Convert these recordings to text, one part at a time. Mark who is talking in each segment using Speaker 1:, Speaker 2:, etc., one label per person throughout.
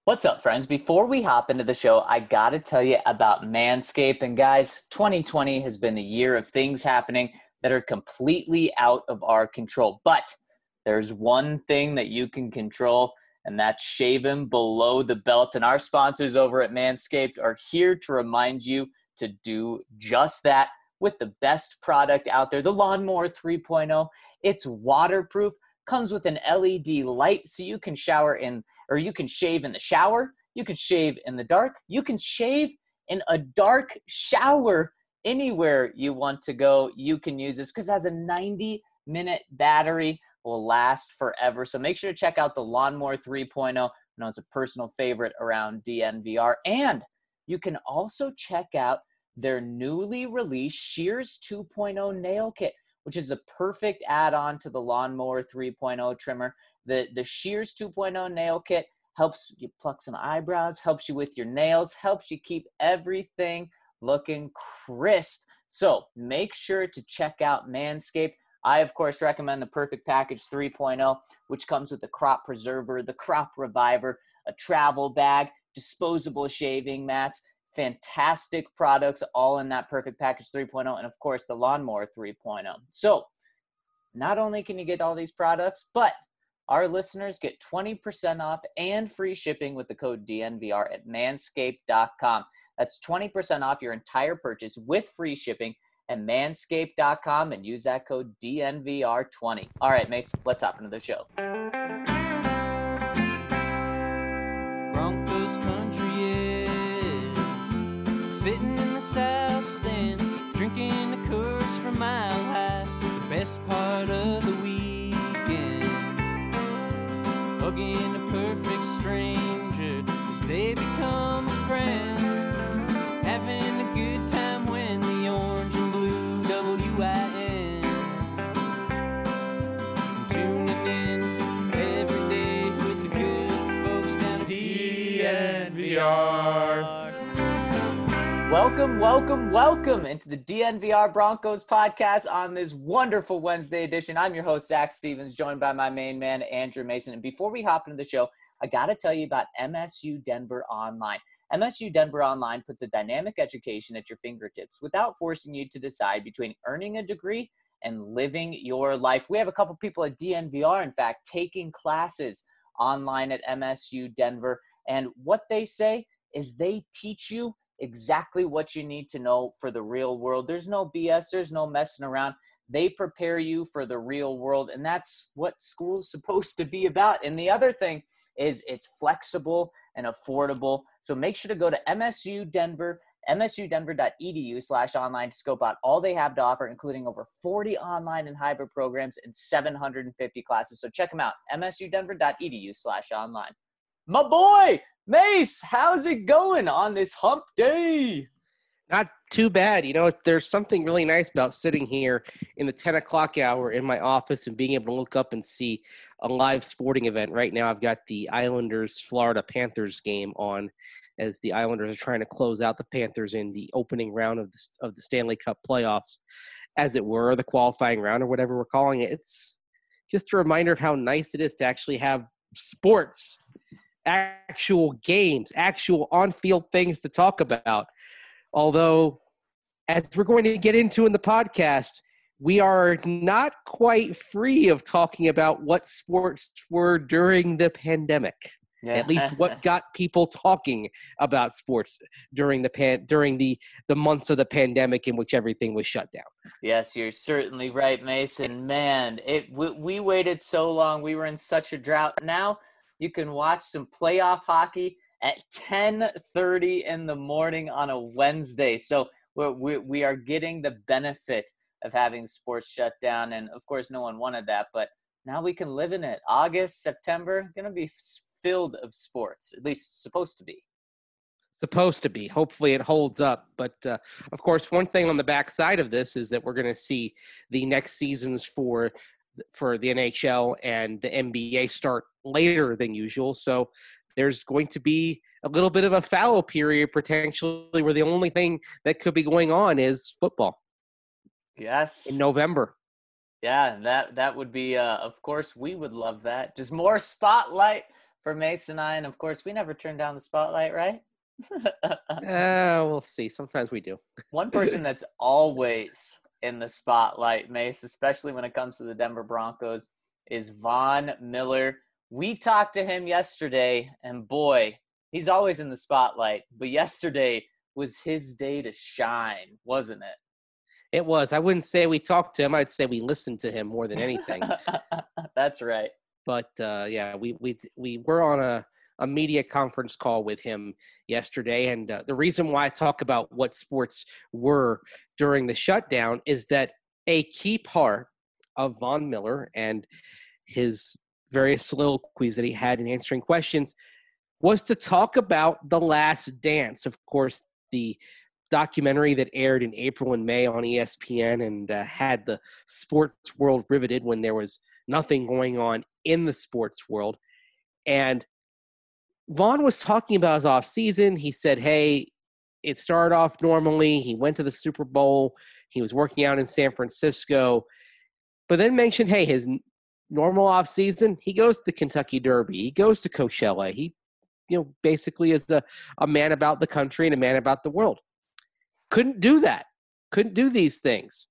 Speaker 1: What's up, friends? Before we hop into the show, I got to tell you about Manscaped. And guys, 2020 has been a year of things happening that are completely out of our control. But there's one thing that you can control, and that's shaving below the belt. And our sponsors over at Manscaped are here to remind you to do just that with the best product out there, the Lawnmower 3.0. It's waterproof, comes with an LED light so you can shower in, or you can shave in the shower, you can shave in the dark, you can shave in a dark shower anywhere you want to go. You can use this because it has a 90-minute battery, will last forever. So make sure to check out the Lawnmower 3.0. I know it's a personal favorite around DNVR. And you can also check out their newly released Shears 2.0 nail kit, which is a perfect add-on to the Lawnmower 3.0 trimmer. The Shears 2.0 nail kit helps you pluck some eyebrows, helps you with your nails, helps you keep everything looking crisp. So make sure to check out Manscaped. I, of course, recommend the Perfect Package 3.0, which comes with the Crop Preserver, the Crop Reviver, a travel bag, disposable shaving mats, fantastic products all in that Perfect Package 3.0, and of course the Lawnmower 3.0. So not only can you get all these products, but our listeners get 20% off and free shipping with the code DNVR at manscaped.com. That's 20% off your entire purchase with free shipping at manscaped.com and use that code DNVR20. All right, Mace, let's hop into the show.
Speaker 2: Broncos country is sitting in the south stands, drinking the Coors from Mile High. The best part of the weekend, hugging a perfect stranger as they become a friend, having a good time when the orange and blue WIN, tuning in every day with the good folks down at DNVR.
Speaker 1: Welcome into the DNVR Broncos podcast on this wonderful Wednesday edition. I'm your host, Zach Stevens, joined by my main man, Andrew Mason. And before we hop into the show, I got to tell you about MSU Denver Online. MSU Denver Online puts a dynamic education at your fingertips without forcing you to decide between earning a degree and living your life. We have a couple people at DNVR, in fact, taking classes online at MSU Denver. And what they say is they teach you exactly what you need to know for the real world. There's no BS. There's no messing around. They prepare you for the real world, and that's what school's supposed to be about. And the other thing is it's flexible and affordable. So make sure to go to MSU Denver, msudenver.edu/online to scope out all they have to offer, including over 40 online and hybrid programs and 750 classes. So check them out, msudenver.edu/online. My boy, Mace, how's it going on this hump day?
Speaker 3: Not too bad. You know, there's something really nice about sitting here in the 10 o'clock hour in my office and being able to look up and see a live sporting event. Right now, I've got the Islanders-Florida Panthers game on as the Islanders are trying to close out the Panthers in the opening round of the Stanley Cup playoffs, as it were, the qualifying round or whatever we're calling it. It's just a reminder of how nice it is to actually have sports, actual games, actual on-field things to talk about. Although, as we're going to get into in the podcast, we are not quite free of talking about what sports were during the pandemic. Yeah. At least what got people talking about sports during the months of the pandemic in which everything was shut down.
Speaker 1: Yes, you're certainly right, Mason. Man, we waited so long. We were in such a drought. Now you can watch some playoff hockey at 10:30 in the morning on a Wednesday. So we are getting the benefit of having sports shut down. And, of course, no one wanted that. But now we can live in it. August, September, going to be filled of sports, at least supposed to be.
Speaker 3: Supposed to be. Hopefully it holds up. But, of course, one thing on the backside of this is that we're going to see the next seasons for the NHL and the NBA start later than usual. So there's going to be a little bit of a fallow period potentially where the only thing that could be going on is football.
Speaker 1: Yes.
Speaker 3: In November.
Speaker 1: Yeah, that would be, of course, we would love that. Just more spotlight, for Mace and I. And of course, we never turn down the spotlight, right?
Speaker 3: We'll see. Sometimes we do.
Speaker 1: One person that's always in the spotlight, Mace, especially when it comes to the Denver Broncos, is Von Miller. We talked to him yesterday, and boy, he's always in the spotlight. But yesterday was his day to shine, wasn't it?
Speaker 3: It was. I wouldn't say we talked to him. I'd say we listened to him more than anything.
Speaker 1: That's right.
Speaker 3: But yeah, we were on a media conference call with him yesterday, and the reason why I talk about what sports were during the shutdown is that a key part of Von Miller and his various soliloquies that he had in answering questions was to talk about The Last Dance. Of course, the documentary that aired in April and May on ESPN and had the sports world riveted when there was nothing going on in the sports world. And Von was talking about his off season. He said, hey, it started off normally. He went to the Super Bowl. He was working out in San Francisco, but then mentioned, hey, his normal off season, he goes to the Kentucky Derby. He goes to Coachella. He, basically is a man about the country and a man about the world. Couldn't do that. Couldn't do these things.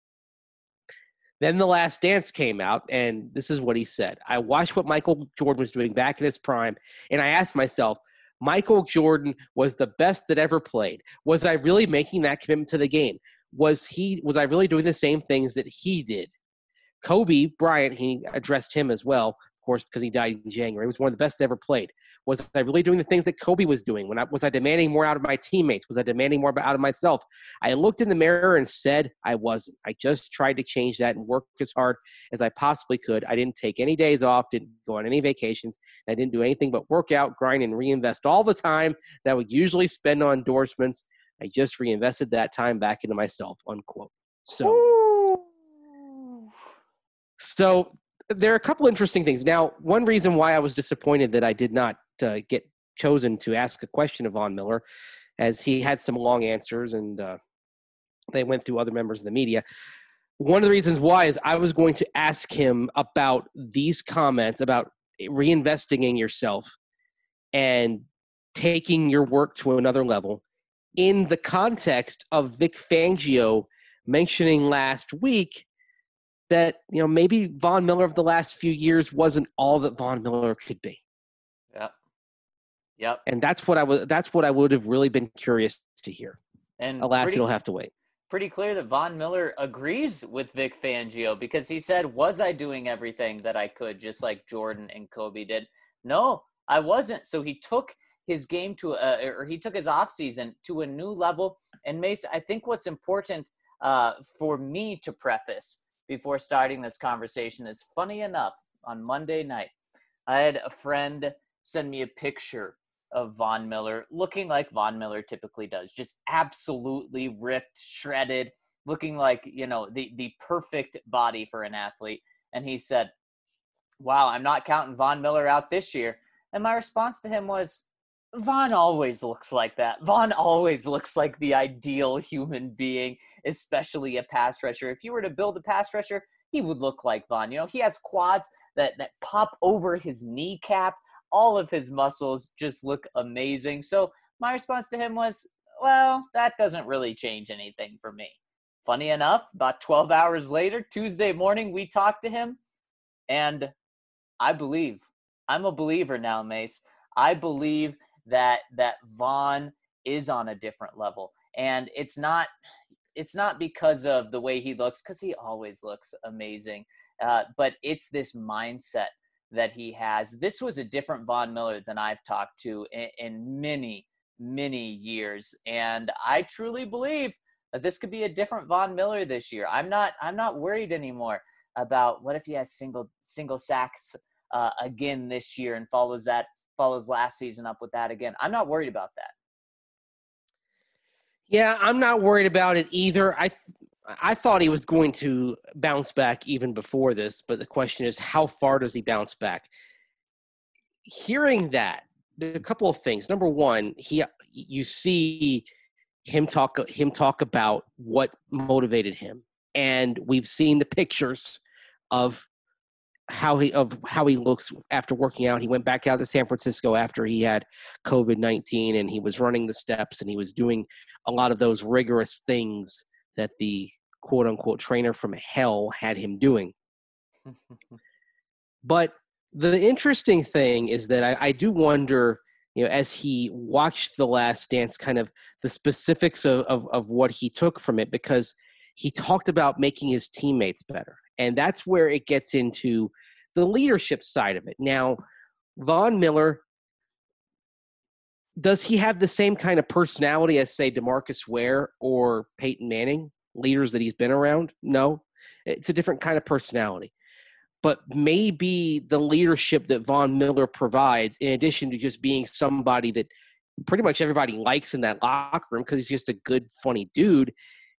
Speaker 3: Then The Last Dance came out, and this is what he said. I watched what Michael Jordan was doing back in his prime, and I asked myself, Michael Jordan was the best that ever played. Was I really making that commitment to the game? Was I really doing the same things that he did? Kobe Bryant, he addressed him as well, of course, because he died in January. He was one of the best that ever played. Was I really doing the things that Kobe was doing? Was I demanding more out of my teammates? Was I demanding more out of myself? I looked in the mirror and said I wasn't. I just tried to change that and work as hard as I possibly could. I didn't take any days off, didn't go on any vacations. I didn't do anything but work out, grind, and reinvest all the time that I would usually spend on endorsements. I just reinvested that time back into myself, unquote. So there are a couple interesting things. Now, one reason why I was disappointed that I did not get chosen to ask a question of Von Miller, as he had some long answers and they went through other members of the media. One of the reasons why is I was going to ask him about these comments about reinvesting in yourself and taking your work to another level in the context of Vic Fangio mentioning last week that, maybe Von Miller of the last few years wasn't all that Von Miller could be.
Speaker 1: Yep.
Speaker 3: And that's what I would have really been curious to hear.
Speaker 1: And
Speaker 3: alas, you'll have to wait.
Speaker 1: Pretty clear that Von Miller agrees with Vic Fangio, because he said, was I doing everything that I could, just like Jordan and Kobe did? No, I wasn't. So he took his game he took his offseason to a new level. And Mace, I think what's important for me to preface before starting this conversation is, funny enough, on Monday night, I had a friend send me a picture of Von Miller looking like Von Miller typically does, just absolutely ripped, shredded, looking like, the perfect body for an athlete. And he said, wow, I'm not counting Von Miller out this year. And my response to him was, Von always looks like that. Von always looks like the ideal human being, especially a pass rusher. If you were to build a pass rusher, he would look like Von. He has quads that pop over his kneecap. All of his muscles just look amazing. So my response to him was, well, that doesn't really change anything for me. Funny enough, about 12 hours later, Tuesday morning, we talked to him, and I believe. I'm a believer now, Mace. I believe that Von is on a different level. And it's not because of the way he looks, because he always looks amazing, but it's this mindset that he has. This was a different Von Miller than I've talked to in many, many years. And I truly believe that this could be a different Von Miller this year. I'm not worried anymore about what if he has single sacks again this year and follows last season up with that again. I'm not worried about that.
Speaker 3: Yeah, I'm not worried about it either. I thought he was going to bounce back even before this, but the question is, how far does he bounce back? Hearing that, there are a couple of things. Number one, you see him talk about what motivated him, and we've seen the pictures of how he looks after working out. He went back out to San Francisco after he had COVID-19, and he was running the steps, and he was doing a lot of those rigorous things that the quote unquote trainer from hell had him doing. But the interesting thing is that I do wonder, as he watched The Last Dance, kind of the specifics of what he took from it, because he talked about making his teammates better. And that's where it gets into the leadership side of it. Now, Von Miller, does he have the same kind of personality as, say, DeMarcus Ware or Peyton Manning, leaders that he's been around? No. It's a different kind of personality. But maybe the leadership that Von Miller provides, in addition to just being somebody that pretty much everybody likes in that locker room because he's just a good, funny dude,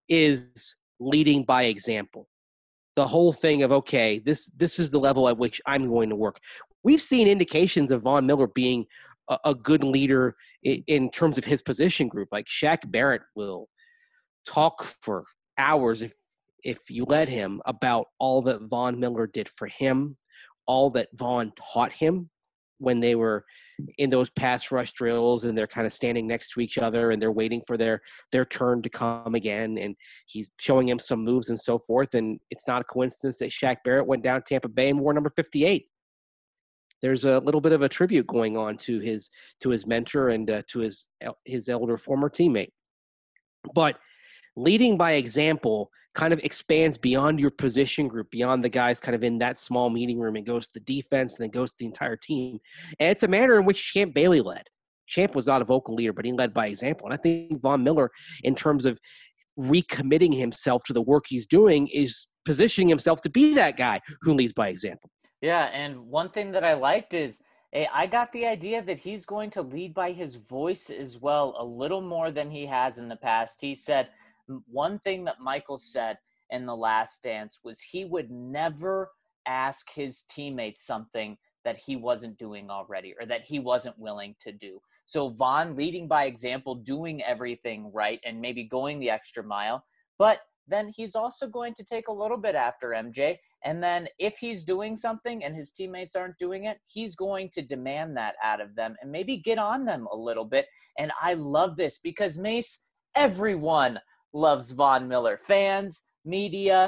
Speaker 3: is leading by example. The whole thing of, okay, this is the level at which I'm going to work. We've seen indications of Von Miller being a good leader in terms of his position group. Like Shaq Barrett will talk for hours if you let him about all that Von Miller did for him, all that Von taught him when they were in those pass rush drills and they're kind of standing next to each other and they're waiting for their turn to come again. And he's showing him some moves and so forth. And it's not a coincidence that Shaq Barrett went down Tampa Bay and wore number 58. There's a little bit of a tribute going on to his mentor and to his elder former teammate. But leading by example kind of expands beyond your position group, beyond the guys kind of in that small meeting room. It goes to the defense and then goes to the entire team. And it's a manner in which Champ Bailey led. Champ was not a vocal leader, but he led by example. And I think Von Miller, in terms of recommitting himself to the work he's doing, is positioning himself to be that guy who leads by example.
Speaker 1: Yeah, and one thing that I liked is I got the idea that he's going to lead by his voice as well, a little more than he has in the past. He said, one thing that Michael said in The Last Dance was he would never ask his teammates something that he wasn't doing already or that he wasn't willing to do. So Von leading by example, doing everything right and maybe going the extra mile, but then he's also going to take a little bit after MJ. And then if he's doing something and his teammates aren't doing it, he's going to demand that out of them and maybe get on them a little bit. And I love this because, Mace, everyone loves Von Miller. Fans, media,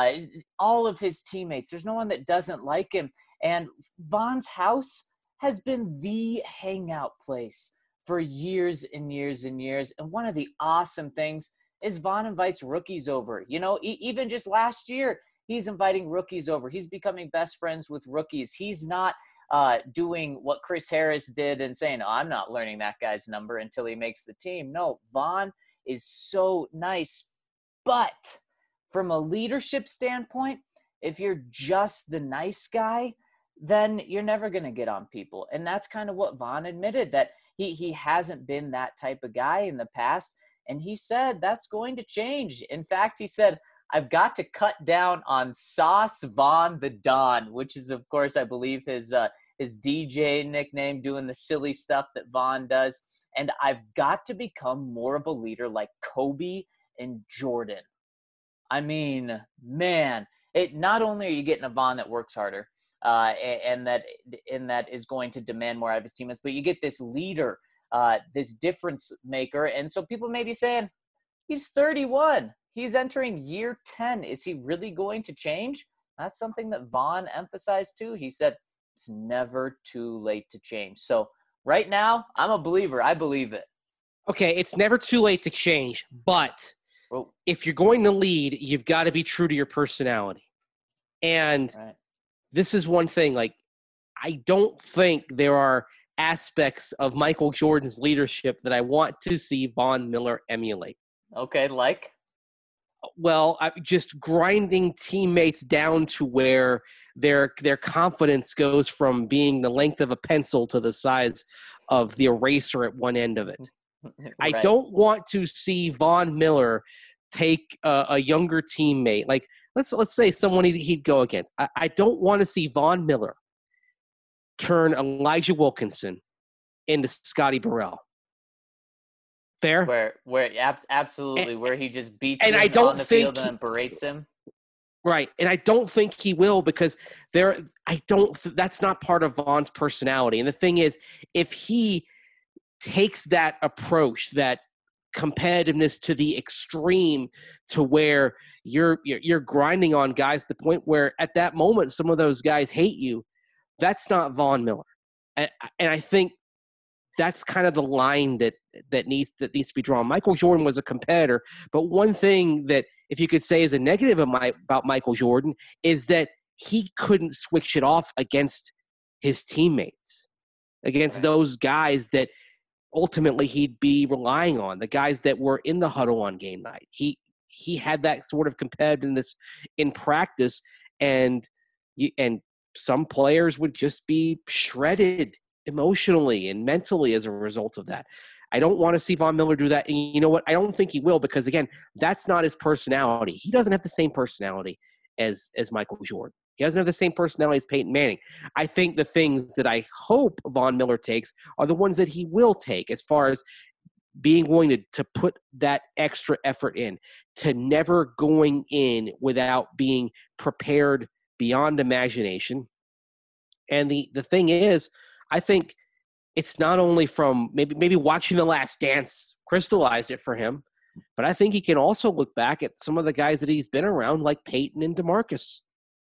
Speaker 1: all of his teammates. There's no one that doesn't like him. And Von's house has been the hangout place for years and years and years. And one of the awesome things is Von invites rookies over. Even just last year, he's inviting rookies over. He's becoming best friends with rookies. He's not doing what Chris Harris did and saying, I'm not learning that guy's number until he makes the team. No, Von is so nice. But from a leadership standpoint, if you're just the nice guy, then you're never going to get on people. And that's kind of what Von admitted, that he hasn't been that type of guy in the past. And he said that's going to change. In fact, he said, I've got to cut down on Sauce Von the Don, which is, of course, I believe his DJ nickname, doing the silly stuff that Von does. And I've got to become more of a leader like Kobe and Jordan. I mean, man, not only are you getting a Von that works harder and that is going to demand more out of his teammates, but you get this leader, this difference maker. And so people may be saying, he's 31. He's entering year 10. Is he really going to change? That's something that Von emphasized too. He said, it's never too late to change. So right now, I'm a believer. I believe it.
Speaker 3: Okay, it's never too late to change, but if you're going to lead, you've got to be true to your personality. And This is one thing, like, I don't think there are aspects of Michael Jordan's leadership that I want to see Von Miller emulate.
Speaker 1: Okay, like?
Speaker 3: Well, just grinding teammates down to where their confidence goes from being the length of a pencil to the size of the eraser at one end of it. Right. I don't want to see Von Miller take a younger teammate. Like, let's say someone he'd go against. I don't want to see Von Miller turn Elijah Wilkinson into Scotty Burrell. Fair?
Speaker 1: Where absolutely, where he just beats him on the field and berates him.
Speaker 3: Right. And I don't think he will because that's not part of Von's personality. And the thing is, if he takes that approach, that competitiveness to the extreme, to where you're grinding on guys to the point where at that moment some of those guys hate you, that's not Von Miller. And I think that's kind of the line that needs to be drawn. Michael Jordan was a competitor, but one thing that, if you could say, is a negative about Michael Jordan is that he couldn't switch it off against his teammates, against those guys that ultimately he'd be relying on, the guys that were in the huddle on game night. He had that sort of competitiveness in practice, and some players would just be shredded emotionally and mentally as a result of that. I don't want to see Von Miller do that. And you know what? I don't think he will, because, again, that's not his personality. He doesn't have the same personality as Michael Jordan. He doesn't have the same personality as Peyton Manning. I think the things that I hope Von Miller takes are the ones that he will take, as far as being willing to put that extra effort in, to never going in without being prepared beyond imagination. And the thing is, I think it's not only from maybe watching The Last Dance crystallized it for him, but I think he can also look back at some of the guys that he's been around, like Peyton and DeMarcus.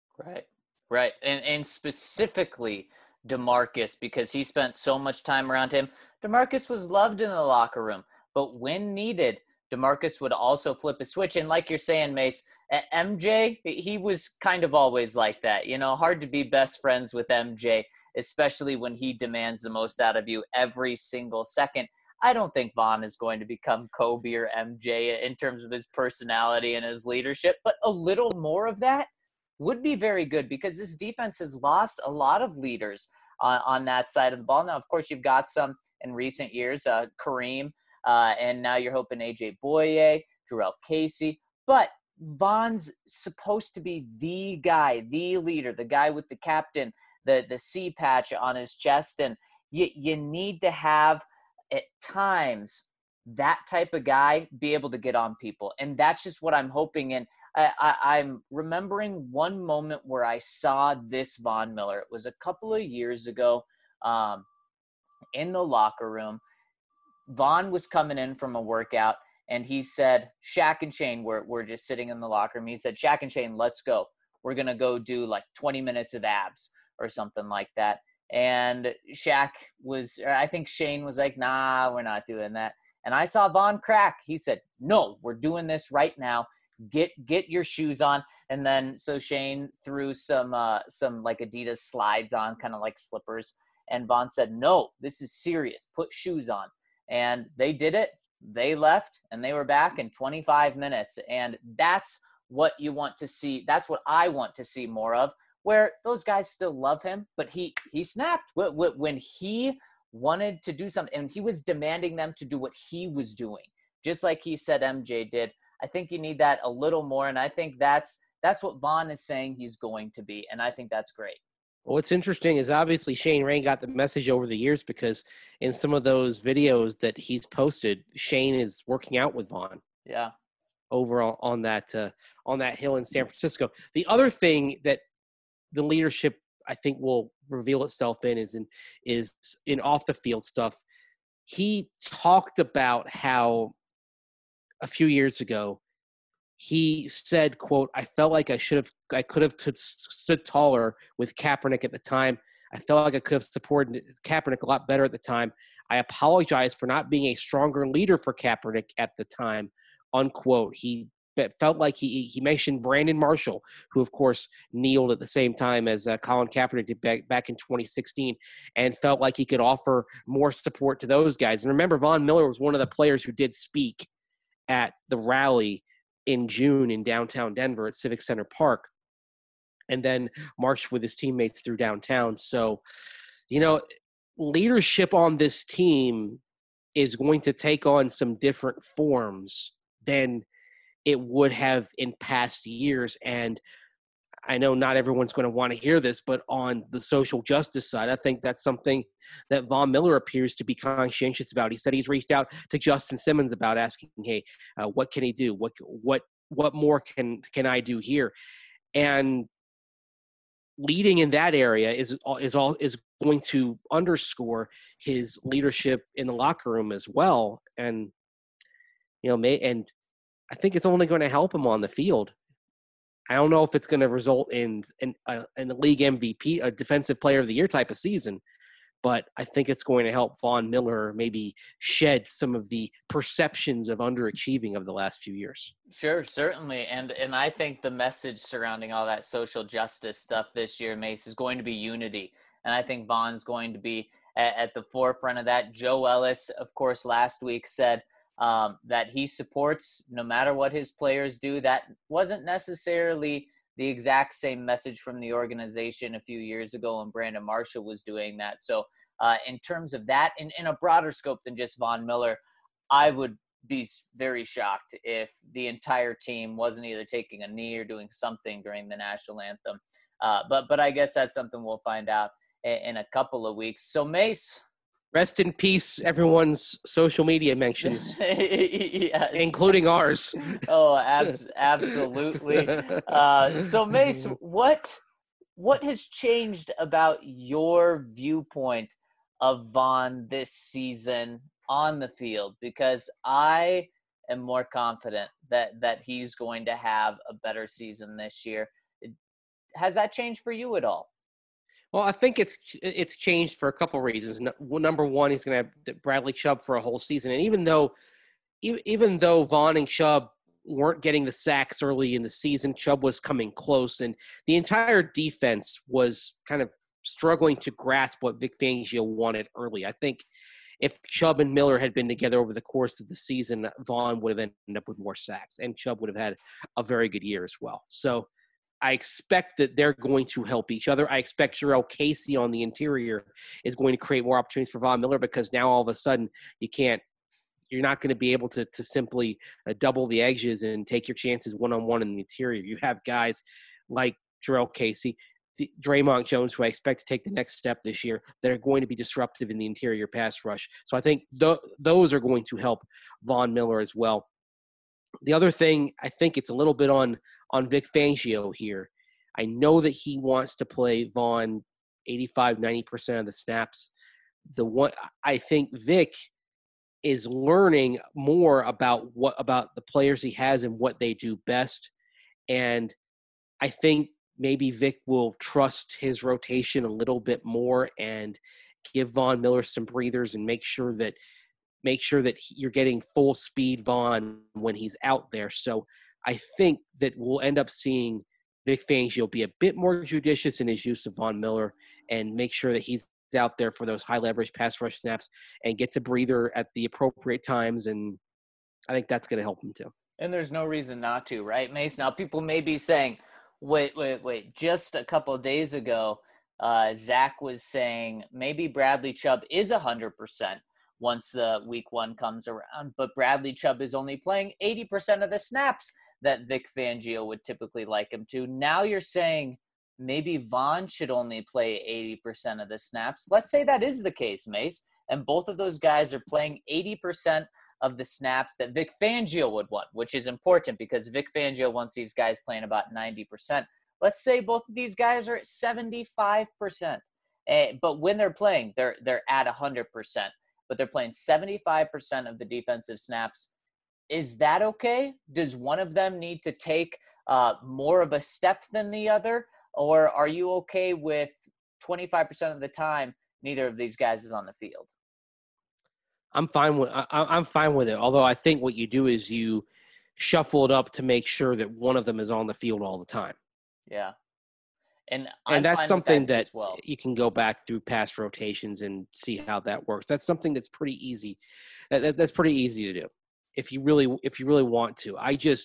Speaker 1: Right. And specifically DeMarcus, because he spent so much time around him. DeMarcus was loved in the locker room, but when needed, DeMarcus would also flip a switch. And like you're saying, Mace, MJ, he was kind of always like that. You know, hard to be best friends with MJ, especially when he demands the most out of you every single second. I don't think Von is going to become Kobe or MJ in terms of his personality and his leadership, but a little more of that would be very good, because this defense has lost a lot of leaders on that side of the ball. Now, of course, you've got some in recent years, Kareem, and now you're hoping AJ Boye, Jarrell Casey. But Von's supposed to be the guy, the leader, the guy with the captain, the C patch on his chest. And you need to have, at times, that type of guy be able to get on people. And that's just what I'm hoping. And I'm remembering one moment where I saw this Von Miller. It was a couple of years ago in the locker room. Von was coming in from a workout, and he said, Shaq and Shane were just sitting in the locker room. He said, Shaq and Shane, let's go. We're going to go do like 20 minutes of abs or something like that. And Shaq was, or I think Shane was like, nah, we're not doing that. And I saw Von crack. He said, no, we're doing this right now. Get your shoes on. And then so Shane threw some like Adidas slides on, kind of like slippers. And Von said, no, this is serious. Put shoes on. And they did it. They left, and they were back in 25 minutes. And that's what you want to see. That's what I want to see more of, where those guys still love him, but he snapped when he wanted to do something, and he was demanding them to do what he was doing, just like he said MJ did. I think you need that a little more, and I think that's what Von is saying he's going to be, and I think that's great.
Speaker 3: Well, what's interesting is obviously Shane Ray got the message over the years, because in some of those videos that he's posted, Shane is working out with Von.
Speaker 1: Yeah.
Speaker 3: Over on that hill in San Francisco. The other thing that the leadership, I think, will reveal itself is in off the field stuff. He talked about how a few years ago he said, quote, I felt like I could have stood taller with Kaepernick at the time. I felt like I could have supported Kaepernick a lot better at the time. I apologize for not being a stronger leader for Kaepernick at the time, unquote. He felt like he mentioned Brandon Marshall, who, of course, kneeled at the same time as Colin Kaepernick did back in 2016, and felt like he could offer more support to those guys. And remember, Von Miller was one of the players who did speak at the rally in June in downtown Denver at Civic Center Park, and then marched with his teammates through downtown. So, you know, leadership on this team is going to take on some different forms than it would have in past years. And I know not everyone's going to want to hear this, but on the social justice side, I think that's something that Von Miller appears to be conscientious about. He said he's reached out to Justin Simmons about asking, hey, what can he do? What more can I do here? And leading in that area is going to underscore his leadership in the locker room as well. And, and I think it's only going to help him on the field. I don't know if it's going to result in a league MVP, a defensive player of the year type of season, but I think it's going to help Von Miller maybe shed some of the perceptions of underachieving of the last few years.
Speaker 1: Sure, certainly. And I think the message surrounding all that social justice stuff this year, Mace, is going to be unity. And I think Von's going to be at the forefront of that. Joe Ellis, of course, last week said that he supports no matter what his players do. That wasn't necessarily the exact same message from the organization a few years ago when Brandon Marshall was doing that. So in terms of that, in a broader scope than just Von Miller, I would be very shocked if the entire team wasn't either taking a knee or doing something during the national anthem. But I guess that's something we'll find out in a couple of weeks. So Mace,
Speaker 3: rest in peace, everyone's social media mentions,
Speaker 1: yes,
Speaker 3: including ours.
Speaker 1: Oh, absolutely. So Mace, what has changed about your viewpoint of Von this season on the field? Because I am more confident that he's going to have a better season this year. Has that changed for you at all?
Speaker 3: Well, I think it's changed for a couple reasons. Number one, he's going to have Bradley Chubb for a whole season, and even though Von and Chubb weren't getting the sacks early in the season, Chubb was coming close, and the entire defense was kind of struggling to grasp what Vic Fangio wanted early. I think if Chubb and Miller had been together over the course of the season, Von would have ended up with more sacks, and Chubb would have had a very good year as well. So I expect that they're going to help each other. I expect Jurrell Casey on the interior is going to create more opportunities for Von Miller, because now all of a sudden you're not going to be able to simply double the edges and take your chances one-on-one in the interior. You have guys like Jurrell Casey, Draymond Jones, who I expect to take the next step this year, that are going to be disruptive in the interior pass rush. So I think those are going to help Von Miller as well. The other thing, I think it's a little bit on Vic Fangio here. I know that he wants to play Von 85-90% of the snaps. I think Vic is learning more about the players he has and what they do best. And I think maybe Vic will trust his rotation a little bit more and give Von Miller some breathers and make sure that you're getting full speed Von when he's out there. So I think that we'll end up seeing Vic Fangio be a bit more judicious in his use of Von Miller and make sure that he's out there for those high leverage pass rush snaps and gets a breather at the appropriate times. And I think that's going to help him too.
Speaker 1: And there's no reason not to, right, Mace? Now people may be saying, wait, just a couple of days ago, Zach was saying maybe Bradley Chubb is 100% once the week one comes around, but Bradley Chubb is only playing 80% of the snaps that Vic Fangio would typically like him to. Now you're saying maybe Von should only play 80% of the snaps. Let's say that is the case, Mace, and both of those guys are playing 80% of the snaps that Vic Fangio would want, which is important because Vic Fangio wants these guys playing about 90%. Let's say both of these guys are at 75%, but when they're playing, they're at 100%. But they're playing 75% of the defensive snaps. Is that okay? Does one of them need to take more of a step than the other? Or are you okay with 25% of the time neither of these guys is on the field?
Speaker 3: I'm fine with it. Although I think what you do is you shuffle it up to make sure that one of them is on the field all the time.
Speaker 1: Yeah. And
Speaker 3: that's something that
Speaker 1: well,
Speaker 3: you can go back through past rotations and see how that works. That's something that's pretty easy. That's pretty easy to do if you really want to.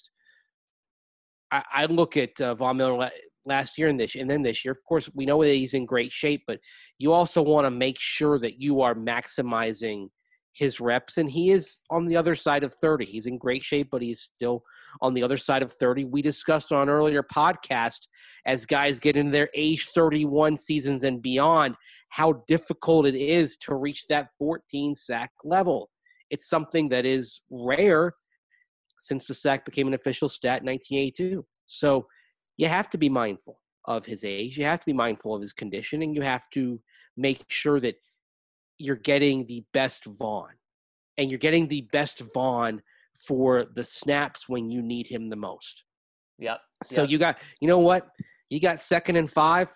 Speaker 3: I look at Von Miller last year and then this year. Of course, we know that he's in great shape, but you also want to make sure that you are maximizing his reps, and he is on the other side of 30. He's in great shape, but he's still on the other side of 30. We discussed on an earlier podcast, as guys get into their age 31 seasons and beyond, how difficult it is to reach that 14 sack level. It's something that is rare since the sack became an official stat in 1982. So you have to be mindful of his age. You have to be mindful of his condition, and you have to make sure that you're getting the best Vaughn. And you're getting the best Vaughn for the snaps when you need him the most.
Speaker 1: Yep.
Speaker 3: So you got, you know what? You got 2nd and 5.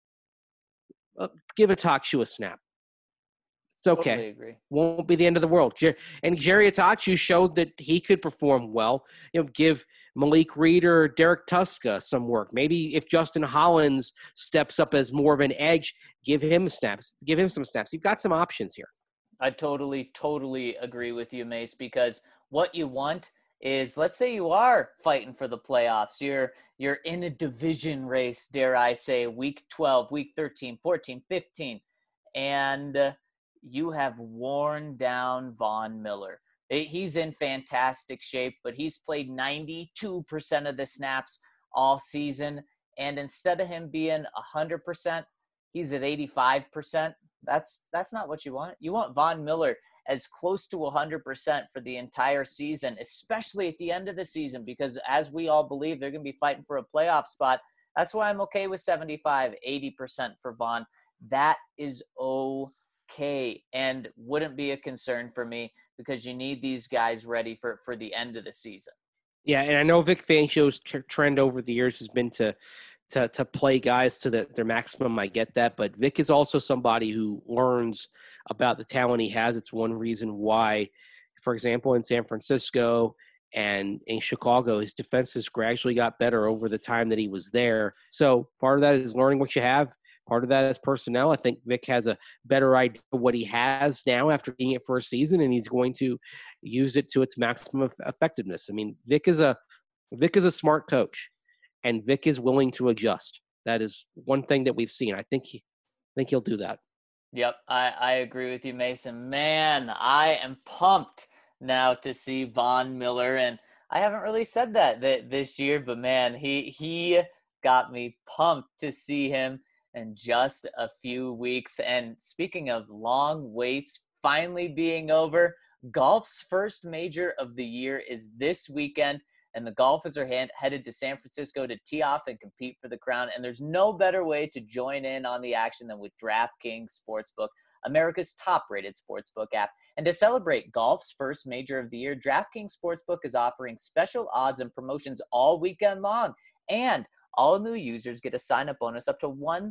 Speaker 3: Give Atakju a snap. It's okay.
Speaker 1: Totally agree.
Speaker 3: Won't be the end of the world. And Jerry Atakju showed that he could perform well. Give Malik Reed or Derek Tuska some work. Maybe if Justin Hollins steps up as more of an edge, give him snaps. Give him some snaps. You've got some options here.
Speaker 1: I totally agree with you, Mace, because what you want is, let's say you are fighting for the playoffs. You're in a division race, dare I say, week 12, week 13, 14, 15, and you have worn down Von Miller. He's in fantastic shape, but he's played 92% of the snaps all season, and instead of him being 100%, he's at 85%. That's not what you want. You want Von Miller as close to 100% for the entire season, especially at the end of the season, because as we all believe, they're going to be fighting for a playoff spot. That's why I'm okay with 75, 80% for Von. That is okay and wouldn't be a concern for me because you need these guys ready for the end of the season.
Speaker 3: Yeah, and I know Vic Fangio's trend over the years has been to play guys to their maximum. I get that, but Vic is also somebody who learns about the talent he has. It's one reason why, for example, in San Francisco and in Chicago, his defenses gradually got better over the time that he was there. So part of that is learning what you have. Part of that is personnel. I think Vic has a better idea of what he has now after being it for a season, and he's going to use it to its maximum effectiveness. I mean, Vic is a smart coach. And Vic is willing to adjust. That is one thing that we've seen. I think he'll do that.
Speaker 1: Yep, I agree with you, Mason. Man, I am pumped now to see Von Miller, and I haven't really said that this year, but man, he got me pumped to see him in just a few weeks. And speaking of long waits finally being over, golf's first major of the year is this weekend. And the golfers are headed to San Francisco to tee off and compete for the crown. And there's no better way to join in on the action than with DraftKings Sportsbook, America's top-rated sportsbook app. And to celebrate golf's first major of the year, DraftKings Sportsbook is offering special odds and promotions all weekend long. And all new users get a sign-up bonus up to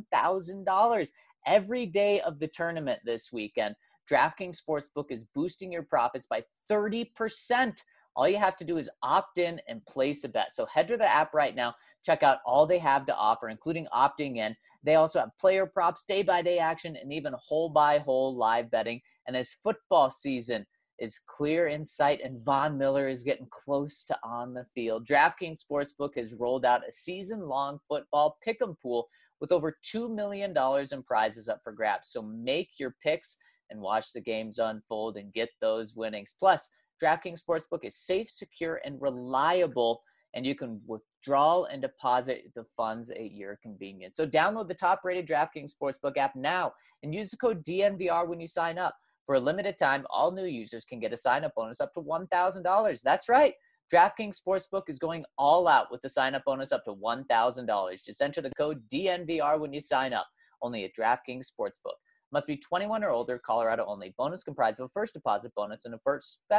Speaker 1: $1,000 every day of the tournament this weekend. DraftKings Sportsbook is boosting your profits by 30%. All you have to do is opt in and place a bet. So head to the app right now, check out all they have to offer, including opting in. They also have player props, day-by-day action, and even hole-by-hole live betting. And as football season is clear in sight and Von Miller is getting close to on the field, DraftKings Sportsbook has rolled out a season-long football pick'em pool with over $2 million in prizes up for grabs. So make your picks and watch the games unfold and get those winnings. Plus, DraftKings Sportsbook is safe, secure, and reliable, and you can withdraw and deposit the funds at your convenience. So download the top-rated DraftKings Sportsbook app now and use the code DNVR when you sign up. For a limited time, all new users can get a sign-up bonus up to $1,000. That's right. DraftKings Sportsbook is going all out with the sign-up bonus up to $1,000. Just enter the code DNVR when you sign up. Only at DraftKings Sportsbook. Must be 21 or older, Colorado only. Bonus comprised of a first deposit bonus and a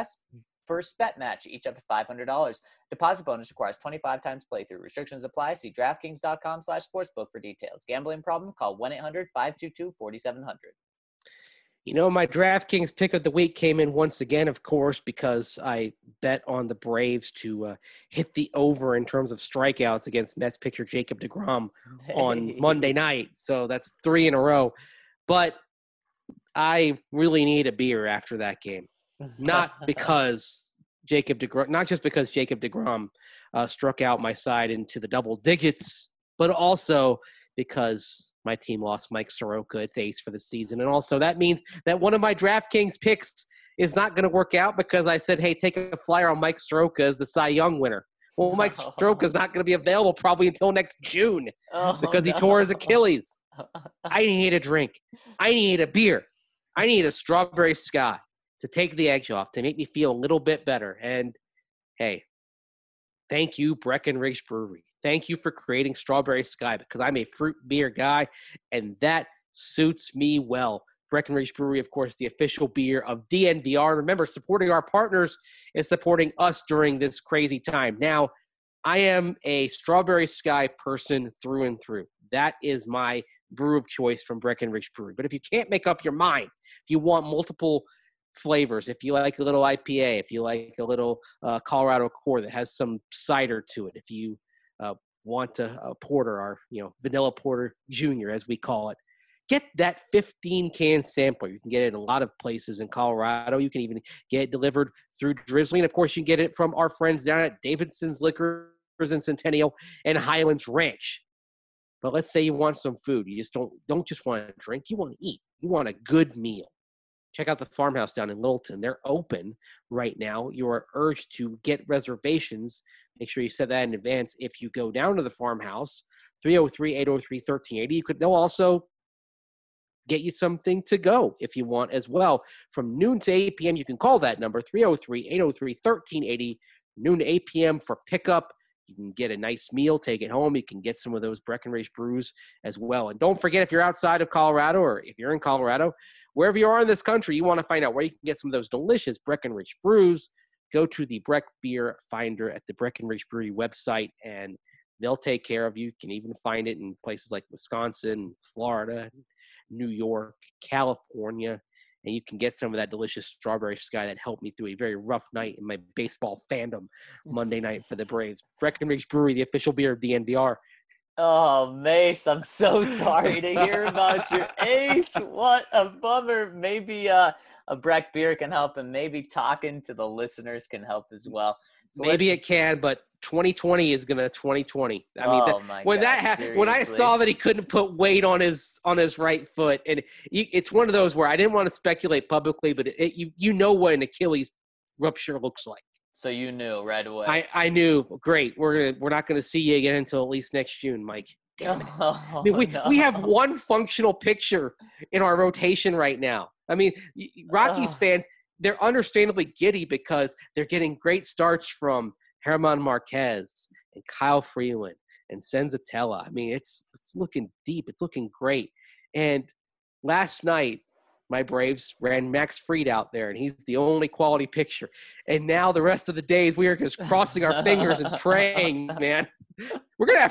Speaker 1: first bet match, each up to $500. Deposit bonus requires 25 times playthrough. Restrictions apply. See DraftKings.com/sportsbook for details. Gambling problem? Call 1-800-522-4700.
Speaker 3: You know, my DraftKings pick of the week came in once again, of course, because I bet on the Braves to hit the over in terms of strikeouts against Mets pitcher Jacob deGrom on Monday night. So that's 3 in a row. But I really need a beer after that game. Not just because Jacob deGrom struck out my side into the double digits, but also because my team lost Mike Soroka, its ace for the season. And also that means that one of my DraftKings picks is not going to work out because I said, hey, take a flyer on Mike Soroka as the Cy Young winner. Well, Mike Soroka is not going to be available probably until next June because he tore his Achilles. I need a drink. I need a beer. I need a strawberry sky to take the edge off, to make me feel a little bit better. And, hey, thank you, Breckenridge Brewery. Thank you for creating Strawberry Sky, because I'm a fruit beer guy, and that suits me well. Breckenridge Brewery, of course, the official beer of DNVR. Remember, supporting our partners is supporting us during this crazy time. Now, I am a Strawberry Sky person through and through. That is my brew of choice from Breckenridge Brewery. But if you can't make up your mind, if you want multiple flavors, if you like a little IPA, if you like a little Colorado Core that has some cider to it, if you want a porter, our vanilla porter junior, as we call it, get that 15-can sampler. You can get it in a lot of places in Colorado. You can even get it delivered through Drizzly. And, of course, you can get it from our friends down at Davidson's Liquors in Centennial and Highlands Ranch. But let's say you want some food. You just don't just want to drink. You want to eat. You want a good meal. Check out the Farmhouse down in Littleton. They're open right now. You are urged to get reservations. Make sure you set that in advance. If you go down to the Farmhouse, 303-803-1380, they'll also get you something to go if you want as well. From noon to 8 p.m., you can call that number, 303-803-1380, noon to 8 p.m. for pickup. You can get a nice meal, take it home. You can get some of those Breckenridge brews as well. And don't forget, if you're outside of Colorado or if you're in Colorado, wherever you are in this country, you want to find out where you can get some of those delicious Breckenridge brews, go to the Breck Beer Finder at the Breckenridge Brewery website, and they'll take care of you. You can even find it in places like Wisconsin, Florida, New York, California, and you can get some of that delicious Strawberry Sky that helped me through a very rough night in my baseball fandom Monday night for the Braves. Breckenridge Brewery, the official beer of DNVR.
Speaker 1: Oh, Mace, I'm so sorry to hear about your ace. What a bummer. Maybe a Breck beer can help, and maybe talking to the listeners can help as well.
Speaker 3: So maybe it can, but 2020 is gonna 2020. I mean, when I saw that he couldn't put weight on his right foot, and it's one of those where I didn't want to speculate publicly, but you know what an Achilles rupture looks like.
Speaker 1: So you knew right away.
Speaker 3: I knew. Great. We're not gonna see you again until at least next June, Mike. Damn it. I mean, we have one functional picture in our rotation right now. I mean, Rockies fans, they're understandably giddy because they're getting great starts from German Marquez and Kyle Freeland and Senzatella. I mean, it's looking deep. It's looking great. And last night, my Braves ran Max Fried out there, and he's the only quality picture. And now the rest of the days, we are just crossing our fingers and praying, man. They're gonna have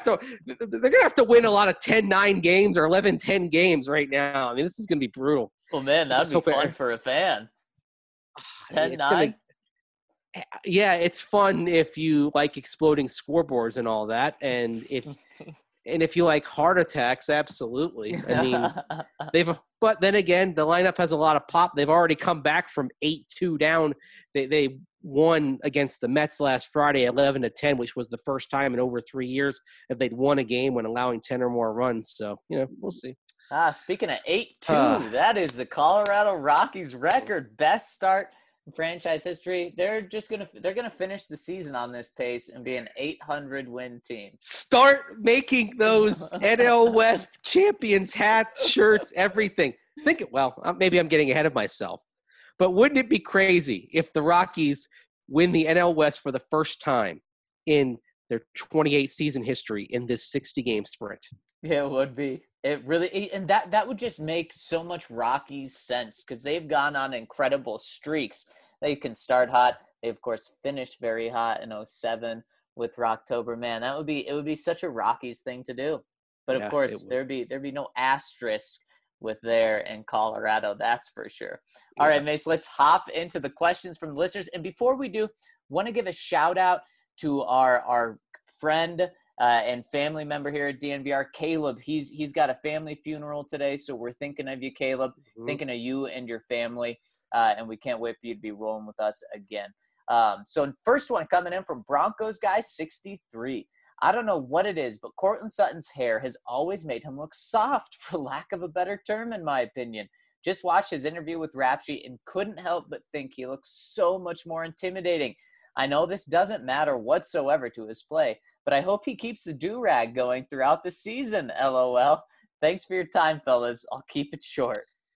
Speaker 3: to win a lot of 10-9 games or 11-10 games right now. I mean, this is gonna be brutal.
Speaker 1: Well, man, that'd be fun for a fan. 10-9.
Speaker 3: Yeah, it's fun if you like exploding scoreboards and all that, and if you like heart attacks, absolutely. I mean, but then again, the lineup has a lot of pop. They've already come back from 8-2 down. They won against the Mets last Friday, 11-10, which was the first time in over 3 years that they'd won a game when allowing 10 or more runs. So, we'll see.
Speaker 1: Speaking of 8-2, that is the Colorado Rockies record, best start in franchise history. They're gonna finish the season on this pace and be an 800 win team.
Speaker 3: Start making those NL West champions hats, shirts, everything. Maybe I'm getting ahead of myself, but wouldn't it be crazy if the Rockies win the NL West for the first time in their 28 season history in this 60 game sprint?
Speaker 1: Yeah, it would be. It really, and that would just make so much Rockies sense because they've gone on incredible streaks. They can start hot. They of course finished very hot in 2007 with Rocktober. Man, it would be such a Rockies thing to do. But of course, there'd be no asterisk with there in Colorado. That's for sure. All right, Mace, let's hop into the questions from the listeners. And before we do, want to give a shout out to our friend and family member here at DNVR, Caleb. He's got a family funeral today, so we're thinking of you, Caleb, thinking of you and your family, and we can't wait for you to be rolling with us again. So first one coming in from Broncos guy 63. I don't know what it is, but Courtland Sutton's hair has always made him look soft, for lack of a better term, in my opinion. Just watched his interview with Rap Sheet and couldn't help but think he looks so much more intimidating. I know this doesn't matter whatsoever to his play, but I hope he keeps the do-rag going throughout the season, LOL. Thanks for your time, fellas. I'll keep it short.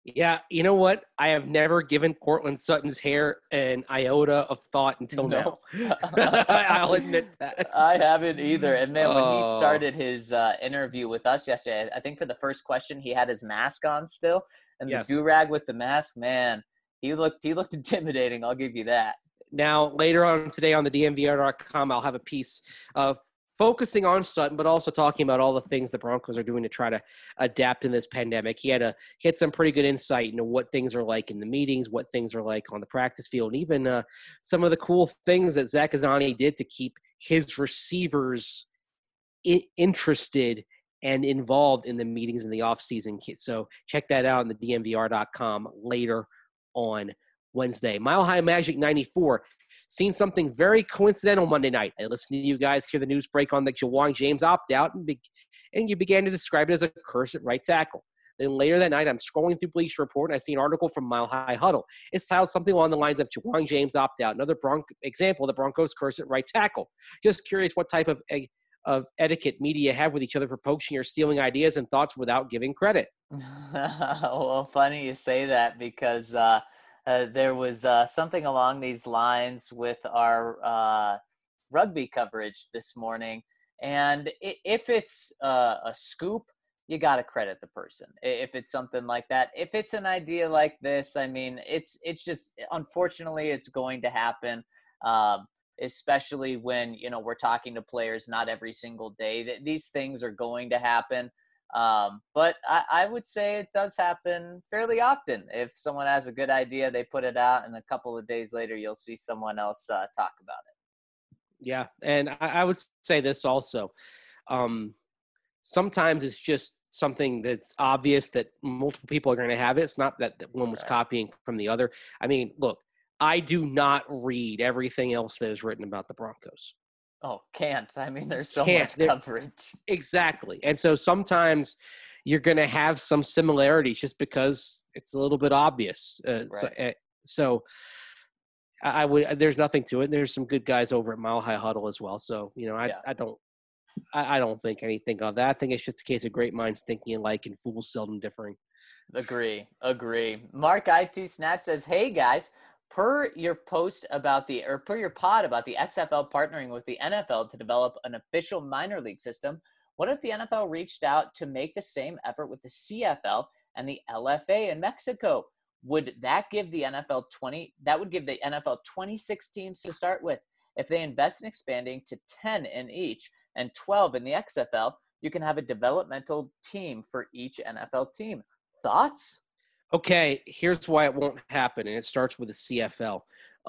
Speaker 3: Yeah, you know what? I have never given Cortland Sutton's hair an iota of thought until now.
Speaker 1: No.
Speaker 3: I'll admit that.
Speaker 1: I haven't either. And man, when he
Speaker 3: Oh,
Speaker 1: started his interview with us yesterday, I think for the first question he had his mask on still, and the do
Speaker 3: yes.
Speaker 1: rag with the mask. Man, he looked intimidating. I'll give you that.
Speaker 3: Now, later on today on the DMVR.com, I'll have a piece focusing on Sutton, but also talking about all the things the Broncos are doing to try to adapt in this pandemic. He had some pretty good insight into what things are like in the meetings, what things are like on the practice field, and even some of the cool things that Zach Azzanni did to keep his receivers interested and involved in the meetings in the offseason. So check that out on the DMVR.com later on Wednesday. Mile High Magic 94. Seen something very coincidental Monday night. I listened to you guys hear the news break on the Ja'Wuan James opt-out, and you began to describe it as a curse at right tackle. Then later that night, I'm scrolling through Bleacher Report, and I see an article from Mile High Huddle. It's titled something along the lines of Ja'Wuan James opt-out, another example of the Broncos' curse at right tackle. Just curious what type of etiquette media have with each other for poaching or stealing ideas and thoughts without giving credit.
Speaker 1: Well, funny you say that because there was something along these lines with our rugby coverage this morning. And if it's a scoop, you got to credit the person. If it's something like that, if it's an idea like this, I mean, it's just, unfortunately, it's going to happen. Especially when, we're talking to players not every single day. These things are going to happen. But I would say it does happen fairly often. If someone has a good idea, they put it out, and a couple of days later, you'll see someone else talk about it.
Speaker 3: Yeah, and I would say this also. Sometimes it's just something that's obvious that multiple people are going to have it. It's not that one was copying from the other. I mean, look, I do not read everything else that is written about the Broncos.
Speaker 1: Oh, can't. I mean, there's so much coverage.
Speaker 3: Exactly. And so sometimes you're going to have some similarities just because it's a little bit obvious. So I would, there's nothing to it. There's some good guys over at Mile High Huddle as well. So, I don't think anything of that. I think it's just a case of great minds thinking alike and fools seldom differing.
Speaker 1: Agree. Mark IT Snatch says, "Hey guys, per your pod about the XFL partnering with the NFL to develop an official minor league system, what if the NFL reached out to make the same effort with the CFL and the LFA in Mexico? Would that give the NFL 26 teams to start with? If they invest in expanding to 10 in each and 12 in the XFL, you can have a developmental team for each NFL team. Thoughts?"
Speaker 3: Okay, here's why it won't happen, and it starts with the CFL.